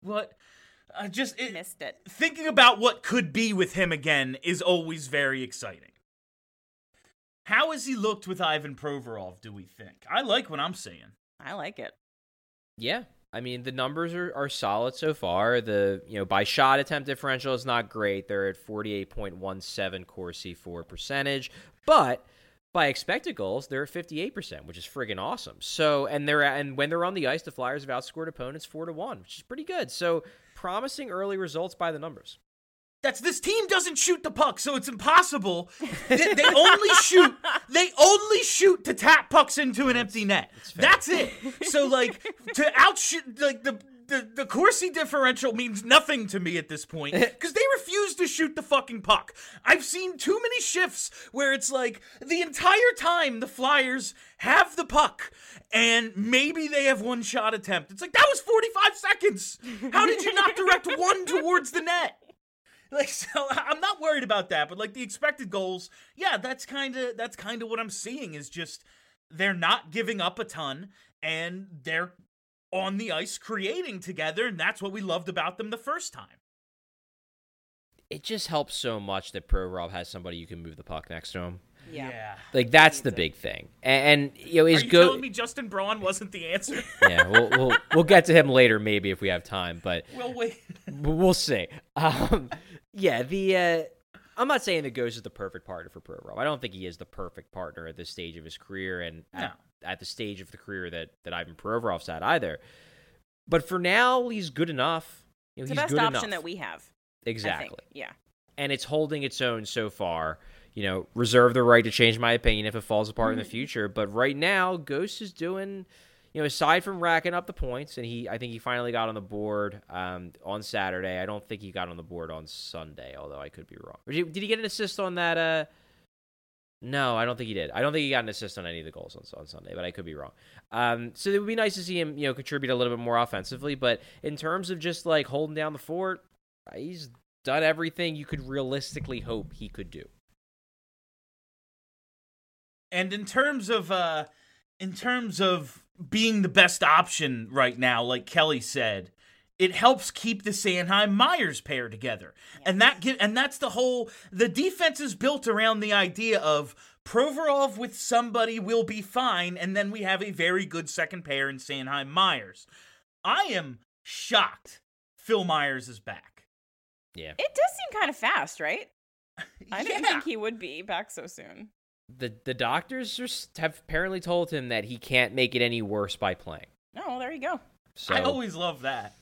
Missed it. Thinking about what could be with him again is always very exciting. How has he looked with Ivan Provorov, do we think? I like what I'm seeing. I like it. Yeah. I mean, the numbers are solid so far. The by shot attempt differential is not great. They're at 48.17 Corsi for percentage, but by expected goals, they're at 58%, which is friggin' awesome. So, and when they're on the ice, the Flyers have outscored opponents 4-1, which is pretty good. So, promising early results by the numbers. This team doesn't shoot the puck, so it's impossible. They only shoot to tap pucks into an empty net. That's it. So like to outshoot, like the the Corsi differential means nothing to me at this point because they refuse to shoot the fucking puck. I've seen too many shifts where it's like the entire time the Flyers have the puck and maybe they have one shot attempt. It's like, that was 45 seconds. How did you not direct one towards the net? Like, so I'm not worried about that, but like the expected goals, yeah, that's kind of what I'm seeing is just they're not giving up a ton and they're on the ice creating together, and that's what we loved about them the first time. It just helps so much that Provorov has somebody you can move the puck next to him. Yeah. Like, that's the big thing. And you know, Are you telling me Justin Braun wasn't the answer? Yeah, we'll get to him later maybe if we have time, but We'll wait. we'll see. Yeah, I'm not saying that Ghost is the perfect partner for Provorov. I don't think he is the perfect partner at this stage of his career and at the stage of the career that Ivan Provorov's at either. But for now, he's good enough. You know, It's he's the best good option enough. that we have. Exactly. I think. Yeah. And it's holding its own so far. You know, reserve the right to change my opinion if it falls apart in the future. But right now, Ghost is doing, you know, aside from racking up the points, and I think he finally got on the board on Saturday. I don't think he got on the board on Sunday, although I could be wrong. Did he get an assist on that? No, I don't think he did. I don't think he got an assist on any of the goals on Sunday, but I could be wrong. So it would be nice to see him, you know, contribute a little bit more offensively. But in terms of just like holding down the fort, he's done everything you could realistically hope he could do. And in terms of being the best option right now, like Kelly said, it helps keep the Sanheim Myers pair together. Yes. And that's the defense is built around the idea of Provorov with somebody will be fine, and then we have a very good second pair in Sanheim Myers. I am shocked Phil Myers is back. Yeah. It does seem kind of fast, right? I didn't think he would be back so soon. The doctors have apparently told him that he can't make it any worse by playing. Oh, well, there you go. So I always love that.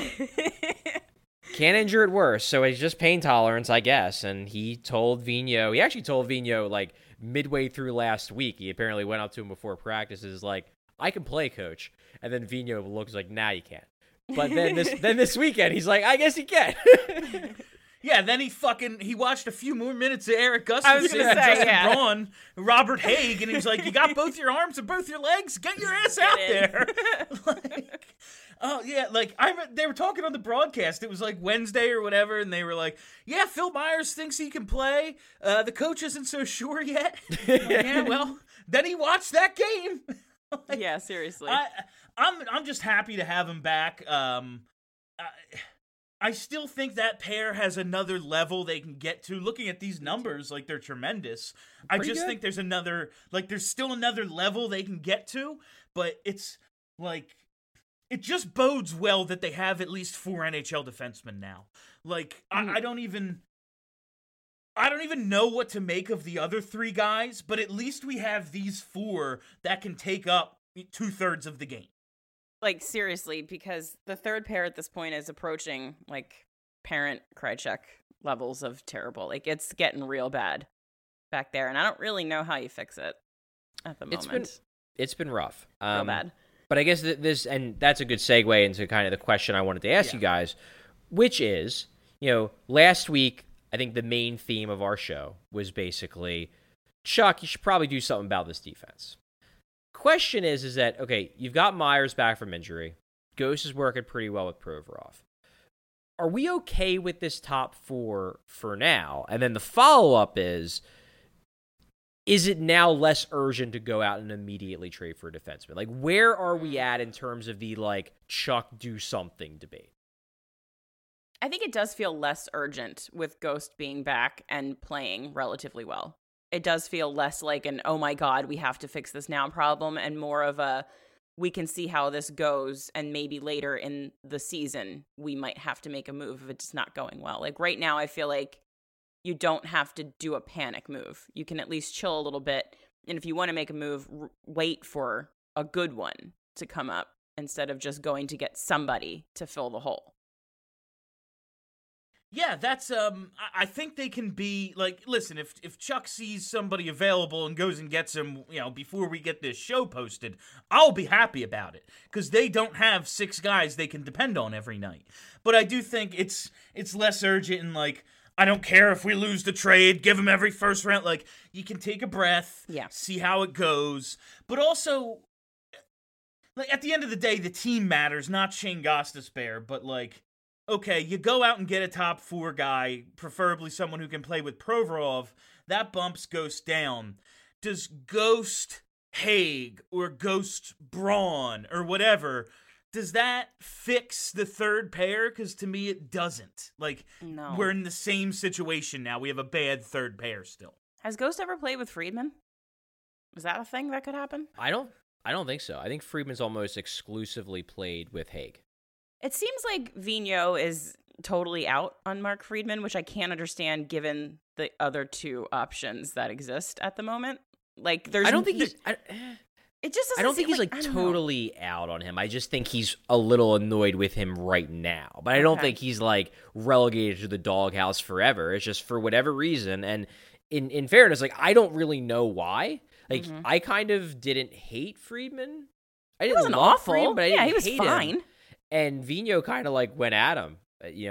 Can't injure it worse, so it's just pain tolerance, I guess. And he actually told Vigneault, like, midway through last week, he apparently went up to him before practices, like, I can play, coach. And then Vigneault looks like, nah, you can't. But then this weekend, he's like, I guess he can. Yeah, then he watched a few more minutes of Eric Gustafsson, I was gonna say, Justin Braun, Robert Haig, and he was like, you got both your arms and both your legs? Get your ass out there. Like, oh, yeah, like, they were talking on the broadcast. It was like Wednesday or whatever, and they were like, yeah, Phil Myers thinks he can play. The coach isn't so sure yet. Yeah, well, then he watched that game. Like, yeah, seriously. I'm just happy to have him back. I still think that pair has another level they can get to. Looking at these numbers, like, they're tremendous. I just think there's still another level they can get to, but it's like, it just bodes well that they have at least 4 NHL defensemen now. Like, I don't even know what to make of the other 3 guys, but at least we have these 4 that can take up 2/3 of the game. Like, seriously, because the third pair at this point is approaching, like, parent Krychek levels of terrible. Like, it's getting real bad back there, and I don't really know how you fix it at the moment. It's been rough. Real bad. But I guess and that's a good segue into kind of the question I wanted to ask you guys, which is, you know, last week, I think the main theme of our show was basically, Chuck, you should probably do something about this defense. Question is that, okay, you've got Myers back from injury. Ghost is working pretty well with Provorov. Are we okay with this top 4 for now? And then the follow-up is it now less urgent to go out and immediately trade for a defenseman? Like, where are we at in terms of the, like, Chuck do something debate? I think it does feel less urgent with Ghost being back and playing relatively well. It does feel less like an, oh my God, we have to fix this now problem, and more of a, we can see how this goes, and maybe later in the season, we might have to make a move if it's not going well. Like, right now, I feel like you don't have to do a panic move. You can at least chill a little bit, and if you want to make a move, wait for a good one to come up instead of just going to get somebody to fill the hole. Yeah, that's I think they can be like, listen, if Chuck sees somebody available and goes and gets him, before we get this show posted, I'll be happy about it because they don't have 6 guys they can depend on every night. But I do think it's less urgent and like, I don't care if we lose the trade, give him every first round. Like, you can take a breath, see how it goes. But also, like, at the end of the day, the team matters, not Shane Gostisbehere, but like, okay, you go out and get a top 4 guy, preferably someone who can play with Provorov. That bumps Ghost down. Does Ghost Haig or Ghost Braun or whatever, does that fix the third pair? Because to me, it doesn't. Like, No. we're in the same situation now. We have a bad third pair still. Has Ghost ever played with Friedman? Is that a thing that could happen? I don't think so. I think Friedman's almost exclusively played with Haig. It seems like Vigneault is totally out on Mark Friedman, which I can't understand given the other 2 options that exist at the moment. Like, there's I don't think he's. It just doesn't I don't think seem he's like I don't know. totally out on him. I just think he's a little annoyed with him right now. But I don't Okay. think he's like relegated to the doghouse forever. It's just for whatever reason. And in fairness, like I don't really know why. Like I kind of didn't hate Friedman. I didn't wasn't love awful. Friedman, but I Yeah, didn't he was hate fine. him. And Vigneault kind of like went at him.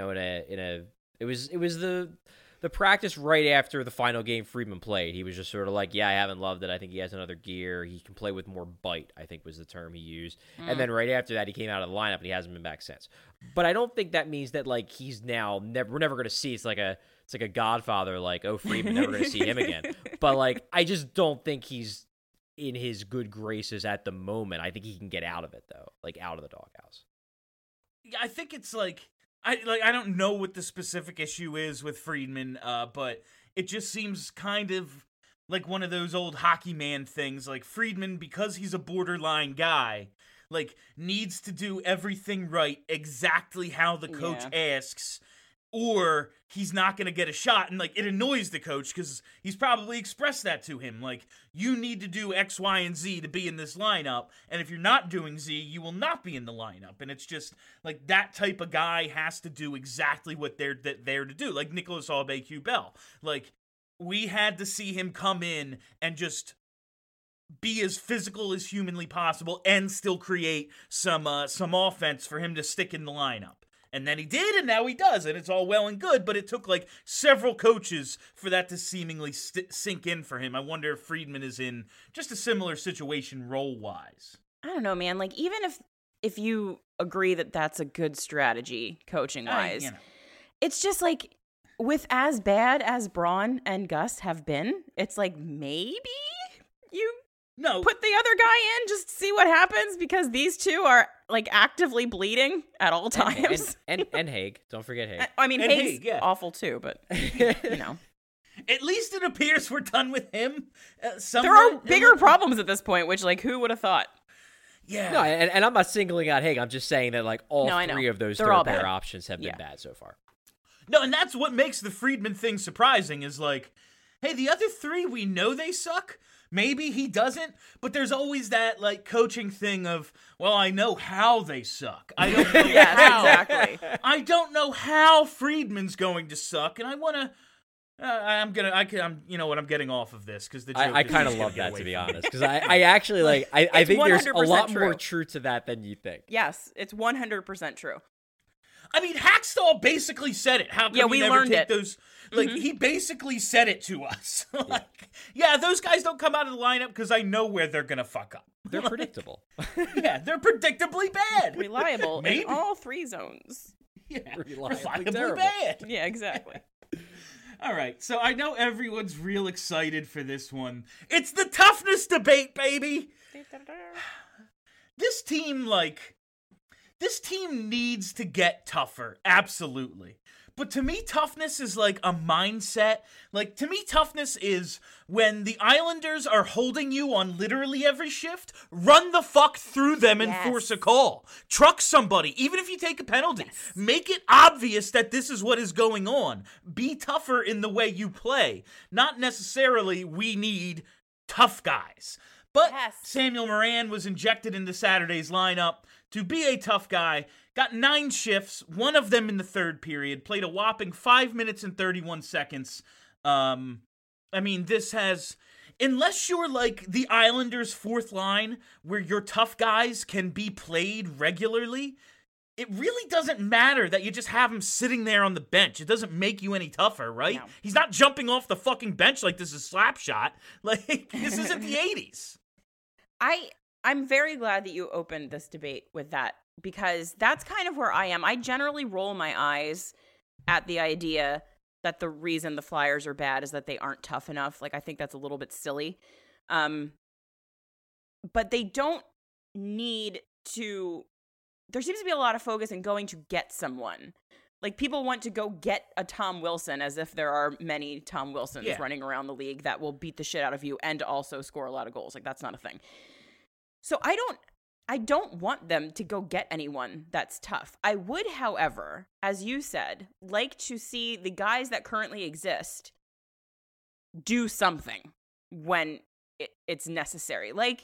It was the practice right after the final game Friedman played. He was just sort of like, yeah, I haven't loved it. I think he has another gear. He can play with more bite, I think was the term he used. And then right after that, he came out of the lineup and he hasn't been back since. But I don't think that means that like he's now we're never going to see. It's like a Godfather, like, oh, Friedman, never going to see him again. But like, I just don't think he's in his good graces at the moment. I think he can get out of it though, like out of the doghouse. Yeah, I think it's like I don't know what the specific issue is with Friedman, but it just seems kind of like one of those old hockey man things. Like Friedman, because he's a borderline guy, like needs to do everything right exactly how the coach asks, or he's not going to get a shot. And like it annoys the coach because he's probably expressed that to him. Like, you need to do X, Y, and Z to be in this lineup. And if you're not doing Z, you will not be in the lineup. And it's just like that type of guy has to do exactly what they're there to do. Like Nicolas Aube-Kubel. Like, we had to see him come in and just be as physical as humanly possible and still create some offense for him to stick in the lineup. And then he did, and now he does, and it's all well and good, but it took, like, several coaches for that to seemingly sink in for him. I wonder if Friedman is in just a similar situation role-wise. I don't know, man. Like, even if you agree that that's a good strategy, coaching-wise, it's just, like, with as bad as Braun and Gus have been, it's like, maybe you put the other guy in just to see what happens, because these two are like actively bleeding at all times. And Haig. Don't forget Haig. I mean, And Haig's Haig, awful too, but At least it appears we're done with him. There are bigger problems at this point, which, like, who would have thought? Yeah. No, and I'm not singling out Haig. I'm just saying that like all three of those third pair options have been bad so far. No, and that's what makes the Friedman thing surprising is like, hey, the other 3, we know they suck. Maybe he doesn't, but there's always that like coaching thing of, well, I know how they suck. I don't know how. Exactly. I don't know how Friedman's going to suck, and I want to. I'm getting off of this because the joke I is kind of just love gonna that, get to away be from me. honest, because I actually like I think there's a 100% lot more true. truth to that than you think. Yes, it's 100% true. I mean, Hackstall basically said it. How come we never learned take it. those? Like, he basically said it to us. Like, yeah, those guys don't come out of the lineup because I know where they're gonna fuck up. They're predictable. Yeah, they're predictably bad. Reliable Maybe. in all 3 zones. Yeah, Reliably reliably terrible. bad. Yeah, exactly. All right, so I know everyone's real excited for this one. It's the toughness debate, baby. This team needs to get tougher, absolutely. But to me, toughness is like a mindset. Like, to me, toughness is when the Islanders are holding you on literally every shift, run the fuck through them and force a call. Truck somebody, even if you take a penalty. Yes. Make it obvious that this is what is going on. Be tougher in the way you play. Not necessarily, we need tough guys. But Yes. Samuel Moran was injected into Saturday's lineup to be a tough guy. Got 9 shifts, one of them in the third period. Played a whopping 5 minutes and 31 seconds. I mean, this has... Unless you're like the Islanders' fourth line, where your tough guys can be played regularly, it really doesn't matter that you just have him sitting there on the bench. It doesn't make you any tougher, right? No. He's not jumping off the fucking bench like this is Slapshot. Like, this isn't the 80s. I'm very glad that you opened this debate with that, because that's kind of where I am. I generally roll my eyes at the idea that the reason the Flyers are bad is that they aren't tough enough. Like, I think that's a little bit silly. But they don't need to... There seems to be a lot of focus in going to get someone. Like, people want to go get a Tom Wilson, as if there are many Tom Wilsons running around the league that will beat the shit out of you and also score a lot of goals. Like, that's not a thing. So I don't want them to go get anyone that's tough. I would, however, as you said, like to see the guys that currently exist do something when it's necessary. Like,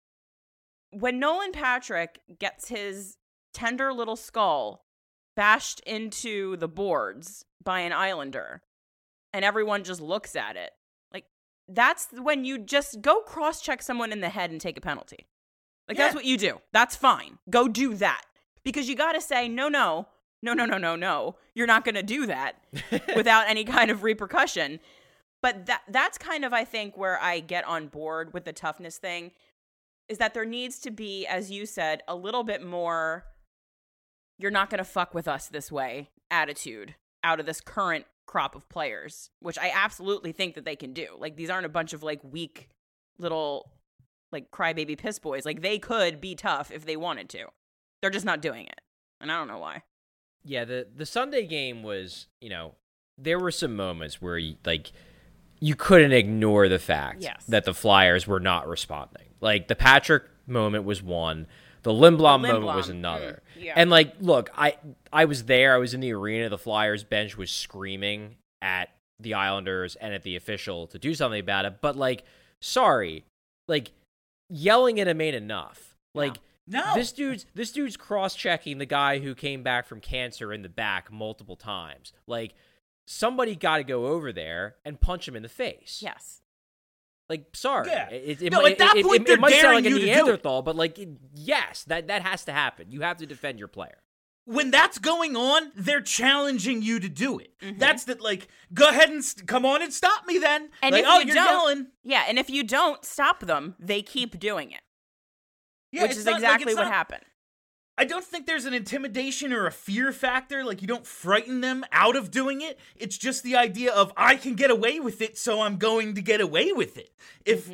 when Nolan Patrick gets his tender little skull bashed into the boards by an Islander and everyone just looks at it, like, that's when you just go cross-check someone in the head and take a penalty. Like, that's what you do. That's fine. Go do that. Because you got to say, no. You're not going to do that without any kind of repercussion. But that's kind of, I think, where I get on board with the toughness thing, is that there needs to be, as you said, a little bit more, you're not going to fuck with us this way attitude out of this current crop of players, which I absolutely think that they can do. Like, these aren't a bunch of, like, weak little... like crybaby piss boys. Like, they could be tough if they wanted to. They're just not doing it. And I don't know why. Yeah, the Sunday game was, there were some moments where you couldn't ignore the fact that the Flyers were not responding. Like, the Patrick moment was one. The Lindblom moment was another. Yeah. And, like, look, I was there. I was in the arena. The Flyers bench was screaming at the Islanders and at the official to do something about it. But, like, sorry. Like, yelling at him ain't enough. Like, no. This dude's cross-checking the guy who came back from cancer in the back multiple times. Like, somebody got to go over there and punch him in the face. Yes. Like, sorry. Yeah. It they're might sound like a daring you to do it. Neanderthal, but, like, yes, that has to happen. You have to defend your player. When that's going on, they're challenging you to do it. Mm-hmm. That's that, like, go ahead and come on and stop me then. And like, if you're yelling. Yeah, and if you don't stop them, they keep doing it. Yeah, which is exactly what happened. I don't think there's an intimidation or a fear factor. Like, you don't frighten them out of doing it. It's just the idea of, I can get away with it, so I'm going to get away with it. If,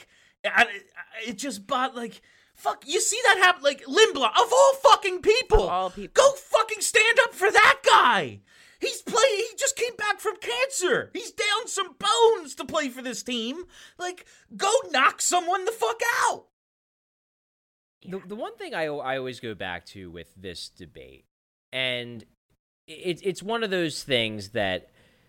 it just, like... Fuck, you see that happen? Like, Lindblom, of all fucking people, go fucking stand up for that guy. He just came back from cancer. He's down some bones to play for this team. Like, go knock someone the fuck out. The one thing I always go back to with this debate, and it's one of those things that,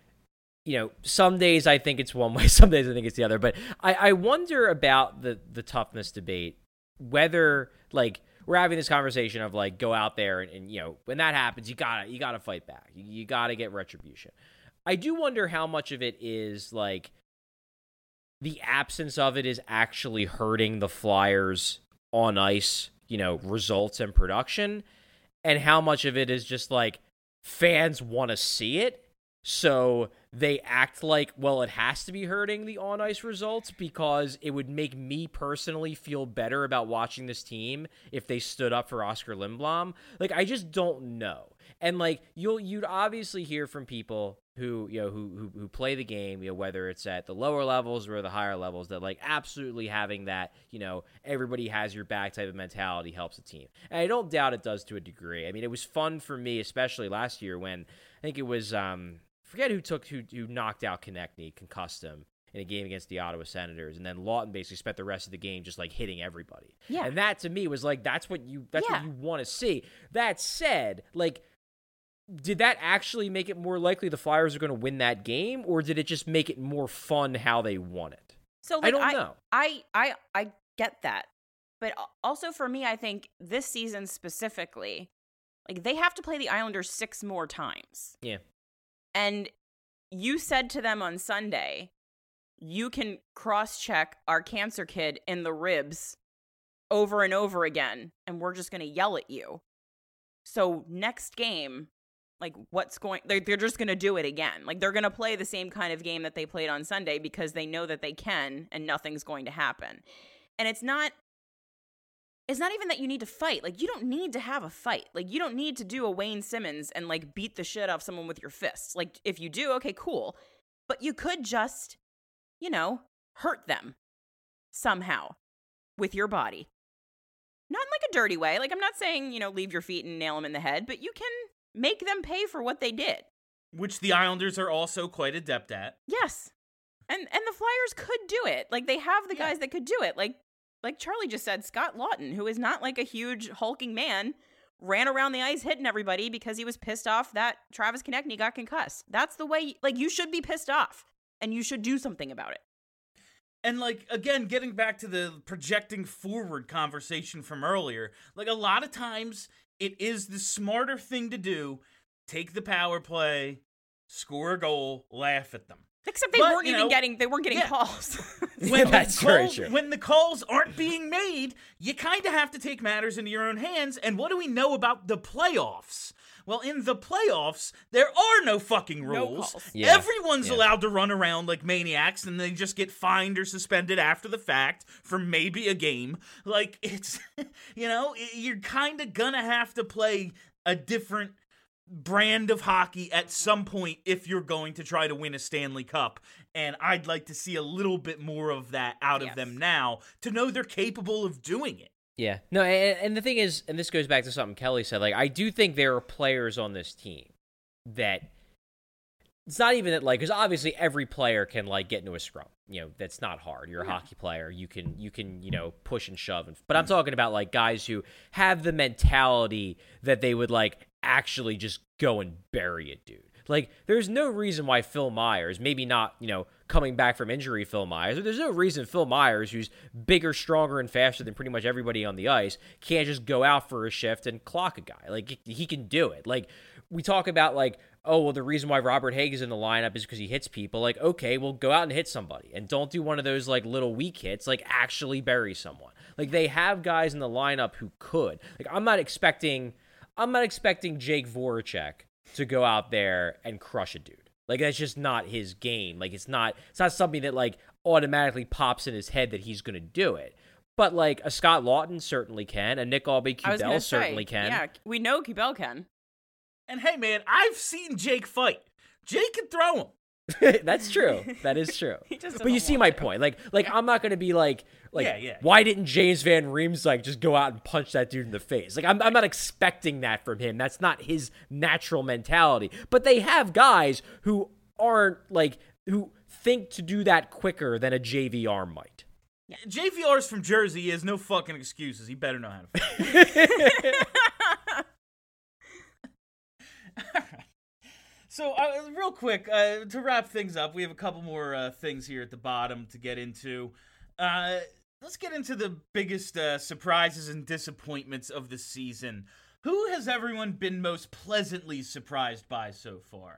some days I think it's one way, some days I think it's the other, but I wonder about the toughness debate. Whether, like, we're having this conversation of, like, go out there and when that happens, you gotta fight back. You gotta get retribution. I do wonder how much of it is, like, the absence of it is actually hurting the Flyers on ice, results and production, and how much of it is just, like, fans want to see it. So they act like, well, it has to be hurting the on-ice results because it would make me personally feel better about watching this team if they stood up for Oscar Lindblom. Like, I just don't know. And, like, you'd obviously hear from people who play the game, whether it's at the lower levels or the higher levels, that, like, absolutely having that, everybody has your back type of mentality helps the team. And I don't doubt it does to a degree. I mean, it was fun for me, especially last year when I think it was forget who knocked out Konechny, concussed him in a game against the Ottawa Senators, and then Lawton basically spent the rest of the game just, like, hitting everybody. Yeah. And that to me was like, that's what you want to see. That said, like, did that actually make it more likely the Flyers are going to win that game, or did it just make it more fun how they won it? So, like, I don't know. I get that. But also for me, I think this season specifically, like they have to play the Islanders 6 more times. Yeah. And you said to them on Sunday, you can cross-check our cancer kid in the ribs over and over again, and we're just going to yell at you. So next game, like they're just going to do it again. Like they're going to play the same kind of game that they played on Sunday because they know that they can and nothing's going to happen. And it's not even that you need to fight. Like you don't need to have a fight. Like you don't need to do a Wayne Simmons and like beat the shit off someone with your fists. Like if you do, okay, cool. But you could just, hurt them somehow with your body. Not in like a dirty way. Like I'm not saying, leave your feet and nail them in the head, but you can make them pay for what they did. Which the Islanders are also quite adept at. Yes. And the Flyers could do it. Like they have the guys that could do it. Like Charlie just said, Scott Lawton, who is not like a huge hulking man, ran around the ice hitting everybody because he was pissed off that Travis Konechny got concussed. That's the way, you should be pissed off and you should do something about it. And, again, getting back to the projecting forward conversation from earlier, a lot of times it is the smarter thing to do. Take the power play, score a goal, laugh at them. Except they weren't getting calls. That's very true. When the calls aren't being made, you kind of have to take matters into your own hands. And what do we know about the playoffs? Well, in the playoffs, there are no fucking rules. No calls. Yeah. Everyone's allowed to run around like maniacs, and they just get fined or suspended after the fact for maybe a game. It's, you're kind of gonna have to play a different brand of hockey at some point if you're going to try to win a Stanley Cup. And I'd like to see a little bit more of that out of them now to know they're capable of doing it. Yeah. No, and the thing is, and this goes back to something Kelly said, I do think there are players on this team that it's not even that, because obviously every player can, get into a scrum. That's not hard. You're a hockey player. You can push and shove. But I'm talking about, guys who have the mentality that they would, actually just go and bury a dude. There's no reason why Phil Myers, maybe not, coming back from injury Phil Myers, or there's no reason Phil Myers, who's bigger, stronger, and faster than pretty much everybody on the ice, can't just go out for a shift and clock a guy. He can do it. We talk about, the reason why Robert Haig is in the lineup is because he hits people. Okay, well, go out and hit somebody. And don't do one of those, little weak hits. Actually bury someone. They have guys in the lineup who could. I'm not expecting Jake Voracek to go out there and crush a dude. That's just not his game. It's not something that, automatically pops in his head that he's going to do it. But, a Scott Lawton certainly can. A Nick Aube-Kubel certainly can. Yeah, we know Kubel can. And, hey, man, I've seen Jake fight. Jake can throw him. That's true. That is true. But you see my point. I'm not going to be why didn't James Van Riemsdyk just go out and punch that dude in the face? I'm not expecting that from him. That's not his natural mentality. But they have guys who aren't who think to do that quicker than a JVR might. Yeah. JVR's from Jersey. He has no fucking excuses. He better know how to fight. All right. So, real quick, to wrap things up, we have a couple more things here at the bottom to get into. Let's get into the biggest surprises and disappointments of the season. Who has everyone been most pleasantly surprised by so far?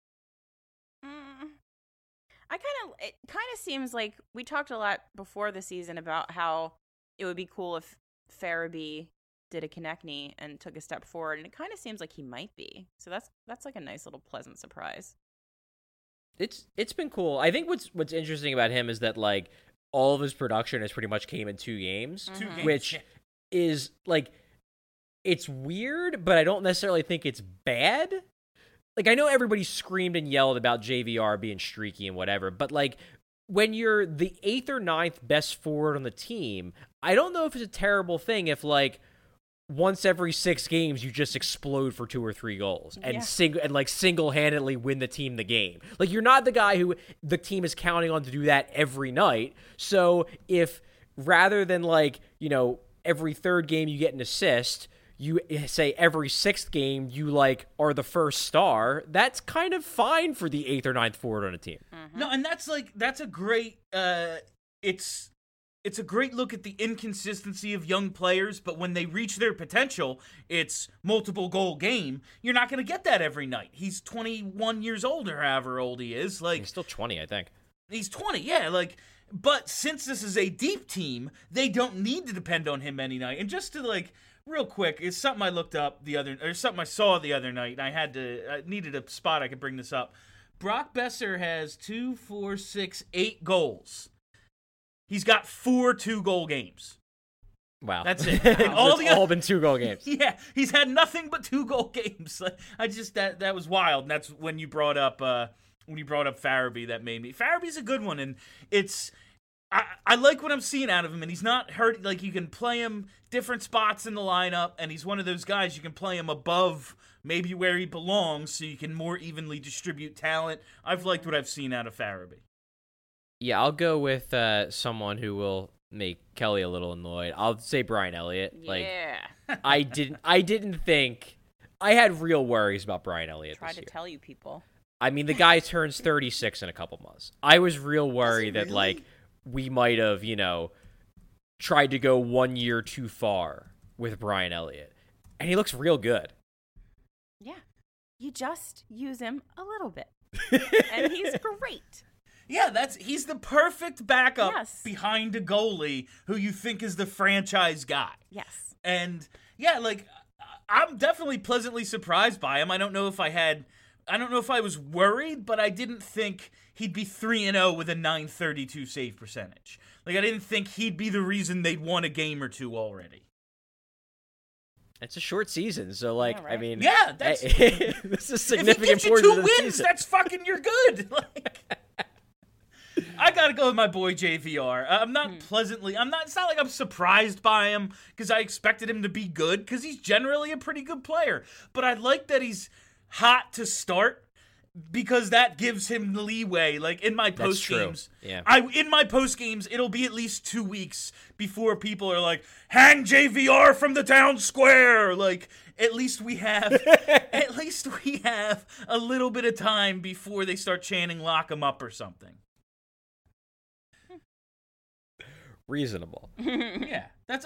It kind of seems like we talked a lot before the season about how it would be cool if Farabee did a Konechny and took a step forward, and it kind of seems like he might be. So that's a nice little pleasant surprise. It's been cool. I think what's interesting about him is that all of his production has pretty much came in 2 games, Mm-hmm. which is it's weird, but I don't necessarily think it's bad. I know everybody screamed and yelled about JVR being streaky and whatever, but when you're the 8th or 9th best forward on the team, I don't know if it's a terrible thing if once every 6 games you just explode for 2 or 3 goals and single-handedly win the team the game. You're not the guy who the team is counting on to do that every night. So if rather than every 3rd game you get an assist, you say every 6th game you are the first star, that's kind of fine for the 8th or 9th forward on a team. Mm-hmm. No, and that's a great it's it's a great look at the inconsistency of young players, but when they reach their potential, it's multiple goal game. You're not going to get that every night. He's 21 years old or however old he is. Like, He's still 20, I think. He's 20, yeah. Like, but since this is a deep team, they don't need to depend on him any night. And just to, like, real quick, it's something I looked up something I saw the other night, and I needed a spot I could bring this up. Brock Besser has 2, 4, 6, 8 goals. He's got 4 2-goal games. Wow. That's it. All been 2-goal games. Yeah, he's had nothing but 2-goal games. I just that was wild. And that's when you brought up Farabee, that made me. Farabee's a good one, and I like what I'm seeing out of him, and he's not hurt. Like, you can play him different spots in the lineup, and he's one of those guys you can play him above maybe where he belongs, so you can more evenly distribute talent. I've liked what I've seen out of Farabee. Yeah, I'll go with someone who will make Kelly a little annoyed. I'll say Brian Elliott. Yeah. Like, I didn't think. I had real worries about Brian Elliott Try this to year. tell you people. I mean, the guy turns 36 in a couple months. I was real worried that, like, we might have, tried to go 1 year too far with Brian Elliott. And he looks real good. Yeah. You just use him a little bit. And he's great. Yeah, he's the perfect backup Yes. behind a goalie who you think is the franchise guy. Yes. And yeah, like, I'm definitely pleasantly surprised by him. I don't know if I was worried, but I didn't think he'd be 3-0 with a .932 save percentage. Like, I didn't think he'd be the reason they'd won a game or two already. It's a short season, so, like, Yeah, right. I mean... Yeah, that's... this is If significant he gives you portion 2 of the wins, season. that's fucking, you're good. Like, I gotta go with my boy JVR. I'm not it's not like I'm surprised by him because I expected him to be good because he's generally a pretty good player. But I like that he's hot to start because that gives him the leeway. Like, in my That's post true. games, Yeah. in my post games, it'll be at least 2 weeks before people are like, hang JVR from the town square. Like, at least we have a little bit of time before they start chanting lock him up or something. Reasonable. Yeah, that's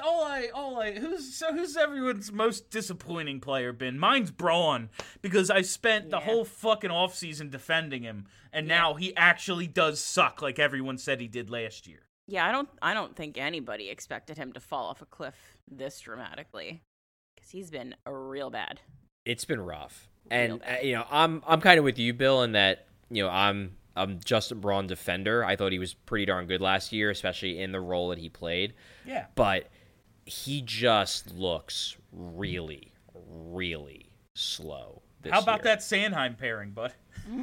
who's everyone's most disappointing player been? Mine's Braun, because I spent the whole fucking offseason defending him, and now he actually does suck like everyone said he did last year. Yeah, I don't think anybody expected him to fall off a cliff this dramatically, because he's been real bad. It's been rough. And, I'm kind of with you, Bill, in that, I'm Justin Braun defender. I thought he was pretty darn good last year, especially in the role that he played. Yeah. But he just looks really, really slow this How about year. that Sanheim pairing, bud?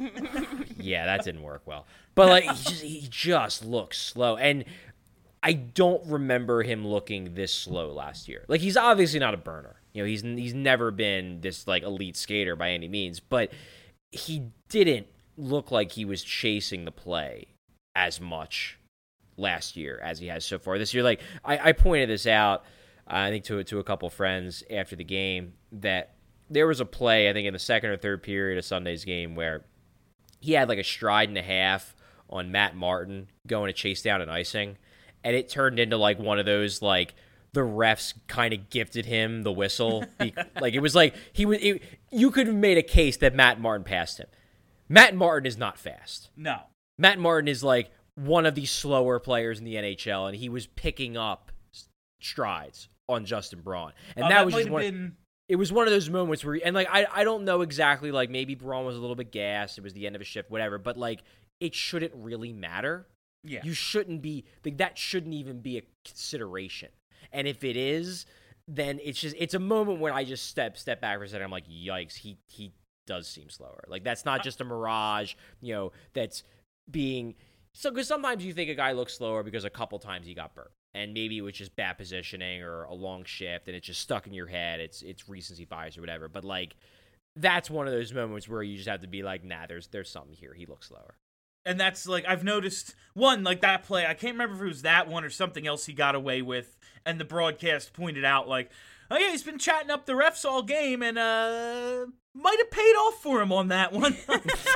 Yeah, that didn't work well. But, like, he just looks slow. And I don't remember him looking this slow last year. Like, he's obviously not a burner. He's never been this, like, elite skater by any means. But he didn't look like he was chasing the play as much last year as he has so far this year. Like, I pointed this out, I think, to a couple friends after the game, that there was a play, I think, in the second or third period of Sunday's game where he had like a stride and a half on Matt Martin going to chase down an icing, and it turned into like one of those, like, the refs kind of gifted him the whistle. Like, it was like you could have made a case that Matt Martin passed him. Matt Martin is not fast. No. Matt Martin is like one of the slower players in the NHL, and he was picking up strides on Justin Braun. And that was just one. It was one of those moments where, and like, I don't know exactly, like, maybe Braun was a little bit gassed. It was the end of a shift, whatever. But, like, it shouldn't really matter. Yeah. You shouldn't be, like, that shouldn't even be a consideration. And if it is, then it's a moment when I just step back for a second. I'm like, yikes, he does seem slower. Like, that's not just a mirage, that's being, so, because sometimes you think a guy looks slower because a couple times he got burnt. And maybe it was just bad positioning or a long shift, and it's just stuck in your head. It's recency bias or whatever. But, like, that's one of those moments where you just have to be like, nah, there's something here. He looks slower. And that's, like, I've noticed, one, like, that play, I can't remember if it was that one or something else he got away with, and the broadcast pointed out, like, oh, yeah, he's been chatting up the refs all game, and might have paid off for him on that one.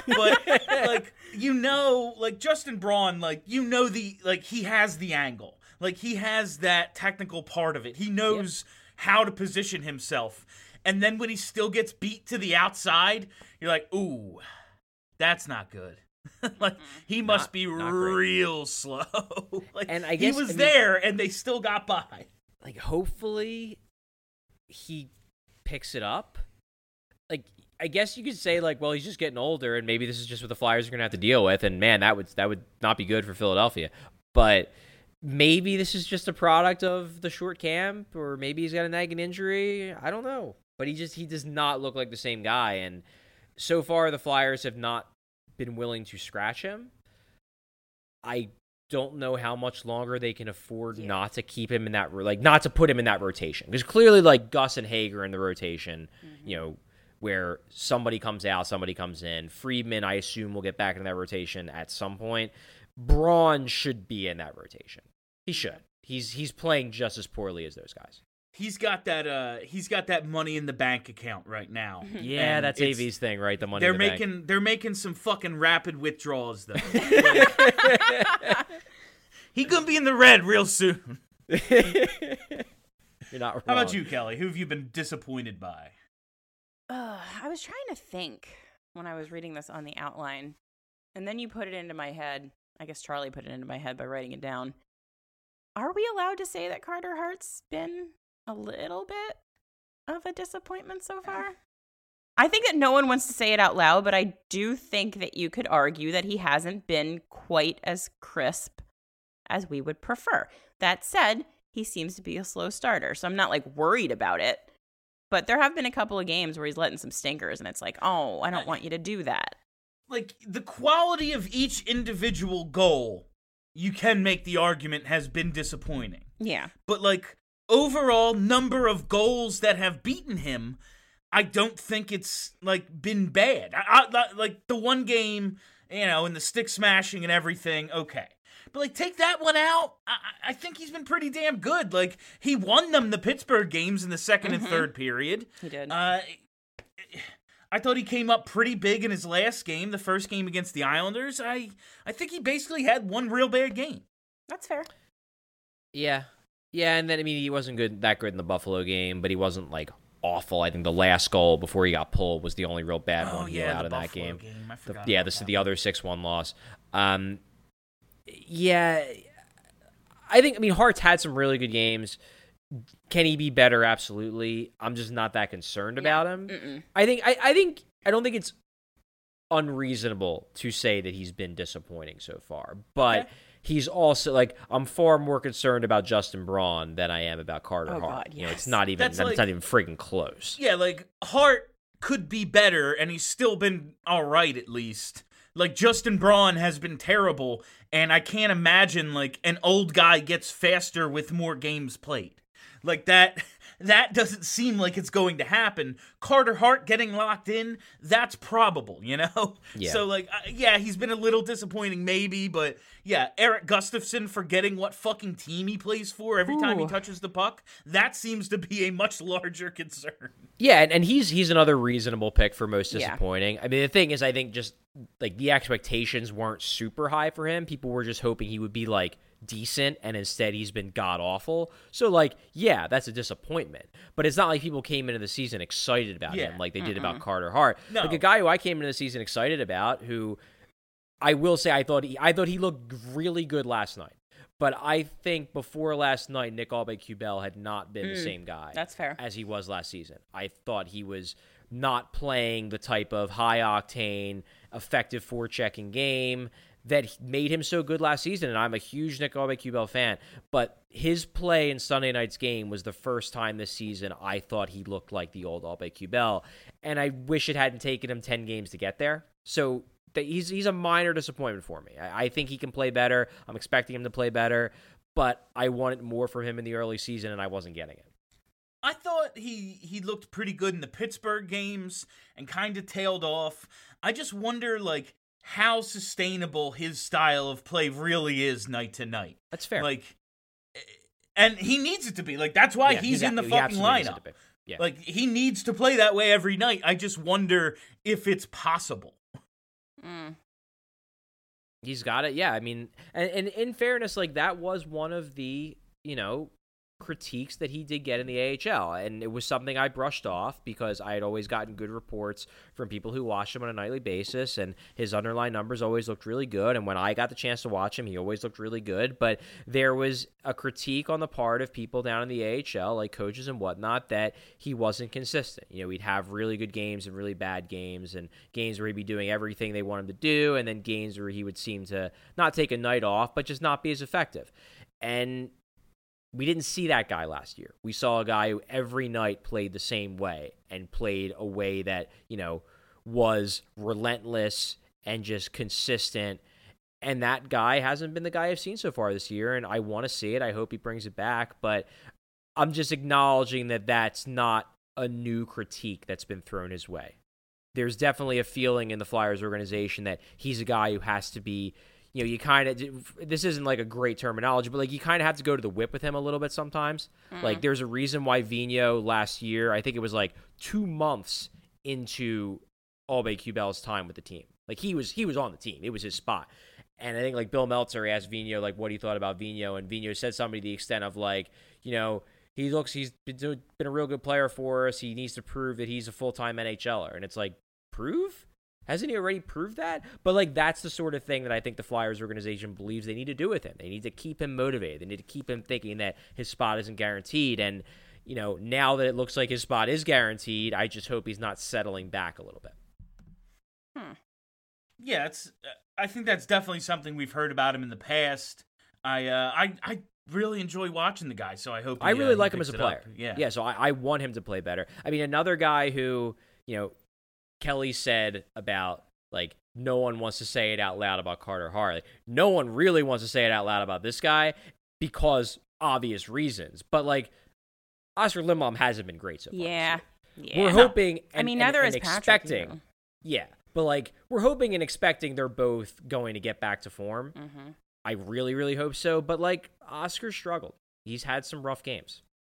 But, like, like, Justin Braun, like, he has the angle. Like, he has that technical part of it. He knows how to position himself. And then when he still gets beat to the outside, you're like, ooh, that's not good. Like, he must be not great. real slow. Like, And I guess- he was I mean- there, and they still got by. Like, hopefully he picks it up. Like, I guess you could say, like, well, he's just getting older, and maybe this is just what the Flyers are going to have to deal with, and man, that would not be good for Philadelphia. But maybe this is just a product of the short camp, or maybe he's got a nagging injury. I don't know. But he does not look like the same guy, and so far the Flyers have not been willing to scratch him. I don't know how much longer they can afford not to keep him in that, like, not to put him in that rotation. Because clearly, like, Gus and Hager in the rotation, you know, where somebody comes out, somebody comes in. Friedman, I assume, will get back into that rotation at some point. Braun should be in that rotation. He should. He's playing just as poorly as those guys. He's got that money in the bank account right now. Yeah, And that's it's- AV's thing, right? The money They're in the bank. they're making some fucking rapid withdrawals though. Like, he gonna be in the red real soon. You're not wrong. How about you, Kelly? Who have you been disappointed by? I was trying to think when I was reading this on the outline, and then you put it into my head. I guess Charlie put it into my head by writing it down. Are we allowed to say that Carter Hart's been a little bit of a disappointment so far? I think that no one wants to say it out loud, but I do think that you could argue that he hasn't been quite as crisp as we would prefer. That said, he seems to be a slow starter, so I'm not like worried about it. But there have been a couple of games where he's letting some stinkers, and it's like, oh, I don't want you to do that. Like, the quality of each individual goal, you can make the argument has been disappointing. Yeah. But, like, overall number of goals that have beaten him, I don't think it's, like, been bad. Like, the one game, you know, and the stick smashing and everything, okay. But, like, take that one out, I think he's been pretty damn good. Like, he won them the Pittsburgh games in the second and third period. He did. I thought he came up pretty big in his last game, the first game against the Islanders. I think he basically had one real bad game. That's fair. Yeah. Yeah, and then, I mean, he wasn't that good in the Buffalo game, but he wasn't, like, awful. I think the last goal before he got pulled was the only real bad one he let out of that game. I forgot Yeah, about this is that the one. other 6-1 loss. Yeah, I think, I mean, Hart's had some really good games. Can he be better? Absolutely. I'm just not that concerned about him. I don't think it's unreasonable to say that he's been disappointing so far, but he's also, like, I'm far more concerned about Justin Braun than I am about Carter Hart. God, You know, it's yes. not even That's like- not even friggin' close. Yeah, like, Hart could be better, and he's still been all right, at least. Like, Justin Braun has been terrible, and I can't imagine, like, an old guy gets faster with more games played. Like, that doesn't seem like it's going to happen. Carter Hart getting locked in, that's probable, you know? Yeah. So, like, yeah, he's been a little disappointing maybe, but yeah, Eric Gustafsson forgetting what fucking team he plays for every time he touches the puck, that seems to be a much larger concern. Yeah, and he's another reasonable pick for most Yeah. disappointing. I mean, the thing is, I think just, like, the expectations weren't super high for him. People were just hoping he would be, like, decent, and instead he's been god-awful. So, like, yeah, that's a disappointment. But it's not like people came into the season excited about him like they did about Carter Hart. No. Like, a guy who I came into the season excited about, who I will say I thought he looked really good last night. But I think before last night, Nick Aube-Kubel had not been the same guy That's fair. as he was last season. I thought he was not playing the type of high-octane, effective forechecking game that made him so good last season, and I'm a huge Nick Aube-Kubel fan. But his play in Sunday night's game was the first time this season I thought he looked like the old Aube-Kubel, and I wish it hadn't taken him 10 games to get there. So he's a minor disappointment for me. I think he can play better. I'm expecting him to play better, but I wanted more from him in the early season, and I wasn't getting it. I thought he looked pretty good in the Pittsburgh games and kind of tailed off. I just wonder, like, how sustainable his style of play really is night to night. That's fair. Like, and he needs it to be. Like, that's why Yeah, he's in the he fucking absolutely needs it lineup. to be. Yeah. Like, he needs to play that way every night. I just wonder if it's possible. He's got it. Yeah, I mean, and in fairness, like that was one of the, critiques that he did get in the AHL, and it was something I brushed off because I had always gotten good reports from people who watched him on a nightly basis, and his underlying numbers always looked really good, and when I got the chance to watch him, he always looked really good, but there was a critique on the part of people down in the AHL, like coaches and whatnot, that he wasn't consistent. He'd have really good games and really bad games, and games where he'd be doing everything they want him to do, and then games where he would seem to not take a night off, but just not be as effective. And we didn't see that guy last year. We saw a guy who every night played the same way and played a way that, was relentless and just consistent. And that guy hasn't been the guy I've seen so far this year, and I want to see it. I hope he brings it back, but I'm just acknowledging that that's not a new critique that's been thrown his way. There's definitely a feeling in the Flyers organization that he's a guy who has to be, you kind of, this isn't like a great terminology, but like you kind of have to go to the whip with him a little bit sometimes. Like there's a reason why Vigneault last year, I think it was like 2 months into Aubé-Kubel's time with the team. Like he was on the team. It was his spot. And I think like Bill Meltzer asked Vigneault like what he thought about Vigneault, and Vigneault said something to the extent of like, he's been a real good player for us. He needs to prove that he's a full-time NHLer. And it's like, prove? Hasn't he already proved that? But, like, that's the sort of thing that I think the Flyers organization believes they need to do with him. They need to keep him motivated. They need to keep him thinking that his spot isn't guaranteed. And, now that it looks like his spot is guaranteed, I just hope he's not settling back a little bit. Yeah, I think that's definitely something we've heard about him in the past. I really enjoy watching the guy, so I hope I really like him picks as a it player. up. Yeah. Yeah, so I want him to play better. I mean, another guy who, Kelly said about, like, no one wants to say it out loud about Carter Hart. Like, no one really wants to say it out loud about this guy because obvious reasons. But, like, Oscar Lindblom hasn't been great so far. Yeah. We're hoping and, neither and is Patrick expecting. either. Yeah. But, like, we're hoping and expecting they're both going to get back to form. Mm-hmm. I really, really hope so. But, like, Oscar struggled. He's had some rough games.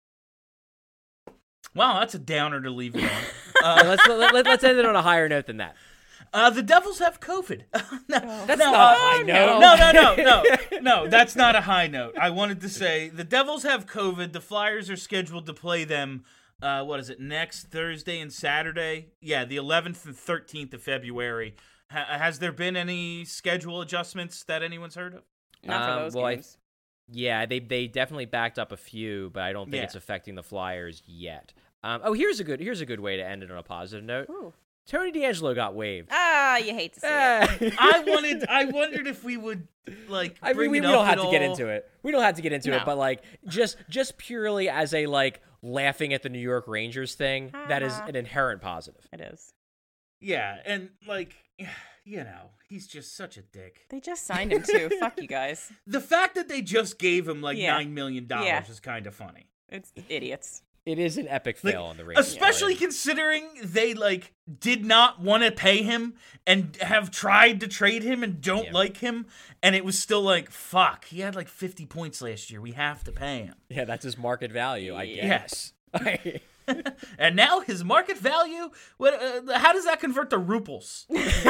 Wow, that's a downer to leave it on. Let's end it on a higher note than that. The Devils have COVID. That's not a high note. No, that's not a high note. I wanted to say the Devils have COVID. The Flyers are scheduled to play them, next Thursday and Saturday? Yeah, the 11th and 13th of February. Has there been any schedule adjustments that anyone's heard of? Not for those games. Yeah, they definitely backed up a few, but I don't think it's affecting the Flyers yet. Here's a good way to end it on a positive note. Ooh. Tony DeAngelo got waived. You hate to see it. I wondered if we would like. I mean, we don't have to get into it. We don't have to get into it, but like just purely as a like laughing at the New York Rangers thing, that is an inherent positive. It is. Yeah, and like, he's just such a dick. They just signed him too. Fuck you guys. The fact that they just gave him like $9 million is kind of funny. It's idiots. It is an epic fail on the Rangers. Especially considering they like did not want to pay him and have tried to trade him and don't like him, and it was still like, fuck, he had like 50 points last year. We have to pay him. Yeah, that's his market value, I guess. Yes. And now his market value, how does that convert to ruples?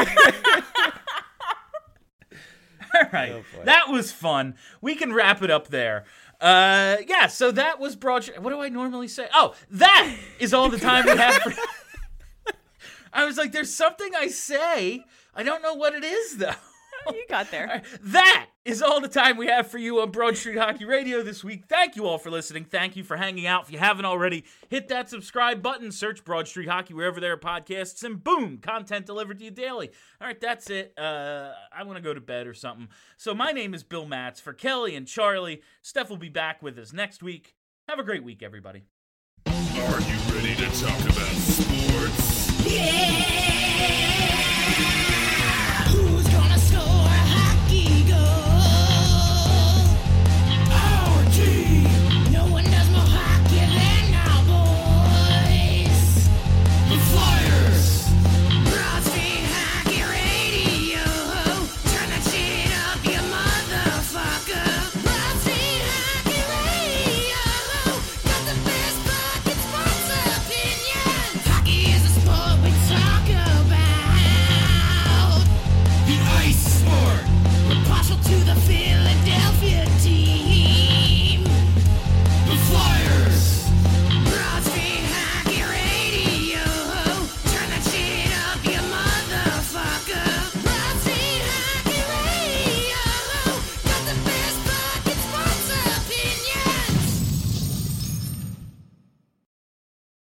All right. That was fun. We can wrap it up there. So that was Broad. What do I normally say? Oh, that is all the time we have for. I was like, there's something I say. I don't know what it is, though. You got there. Right. That is all the time we have for you on Broad Street Hockey Radio this week. Thank you all for listening. Thank you for hanging out. If you haven't already, hit that subscribe button, search Broad Street Hockey wherever there are podcasts, and boom, content delivered to you daily. All right, that's it. I want to go to bed or something. So my name is Bill Matz. For Kelly and Charlie, Steph will be back with us next week. Have a great week, everybody. Are you ready to talk about sports? Yeah!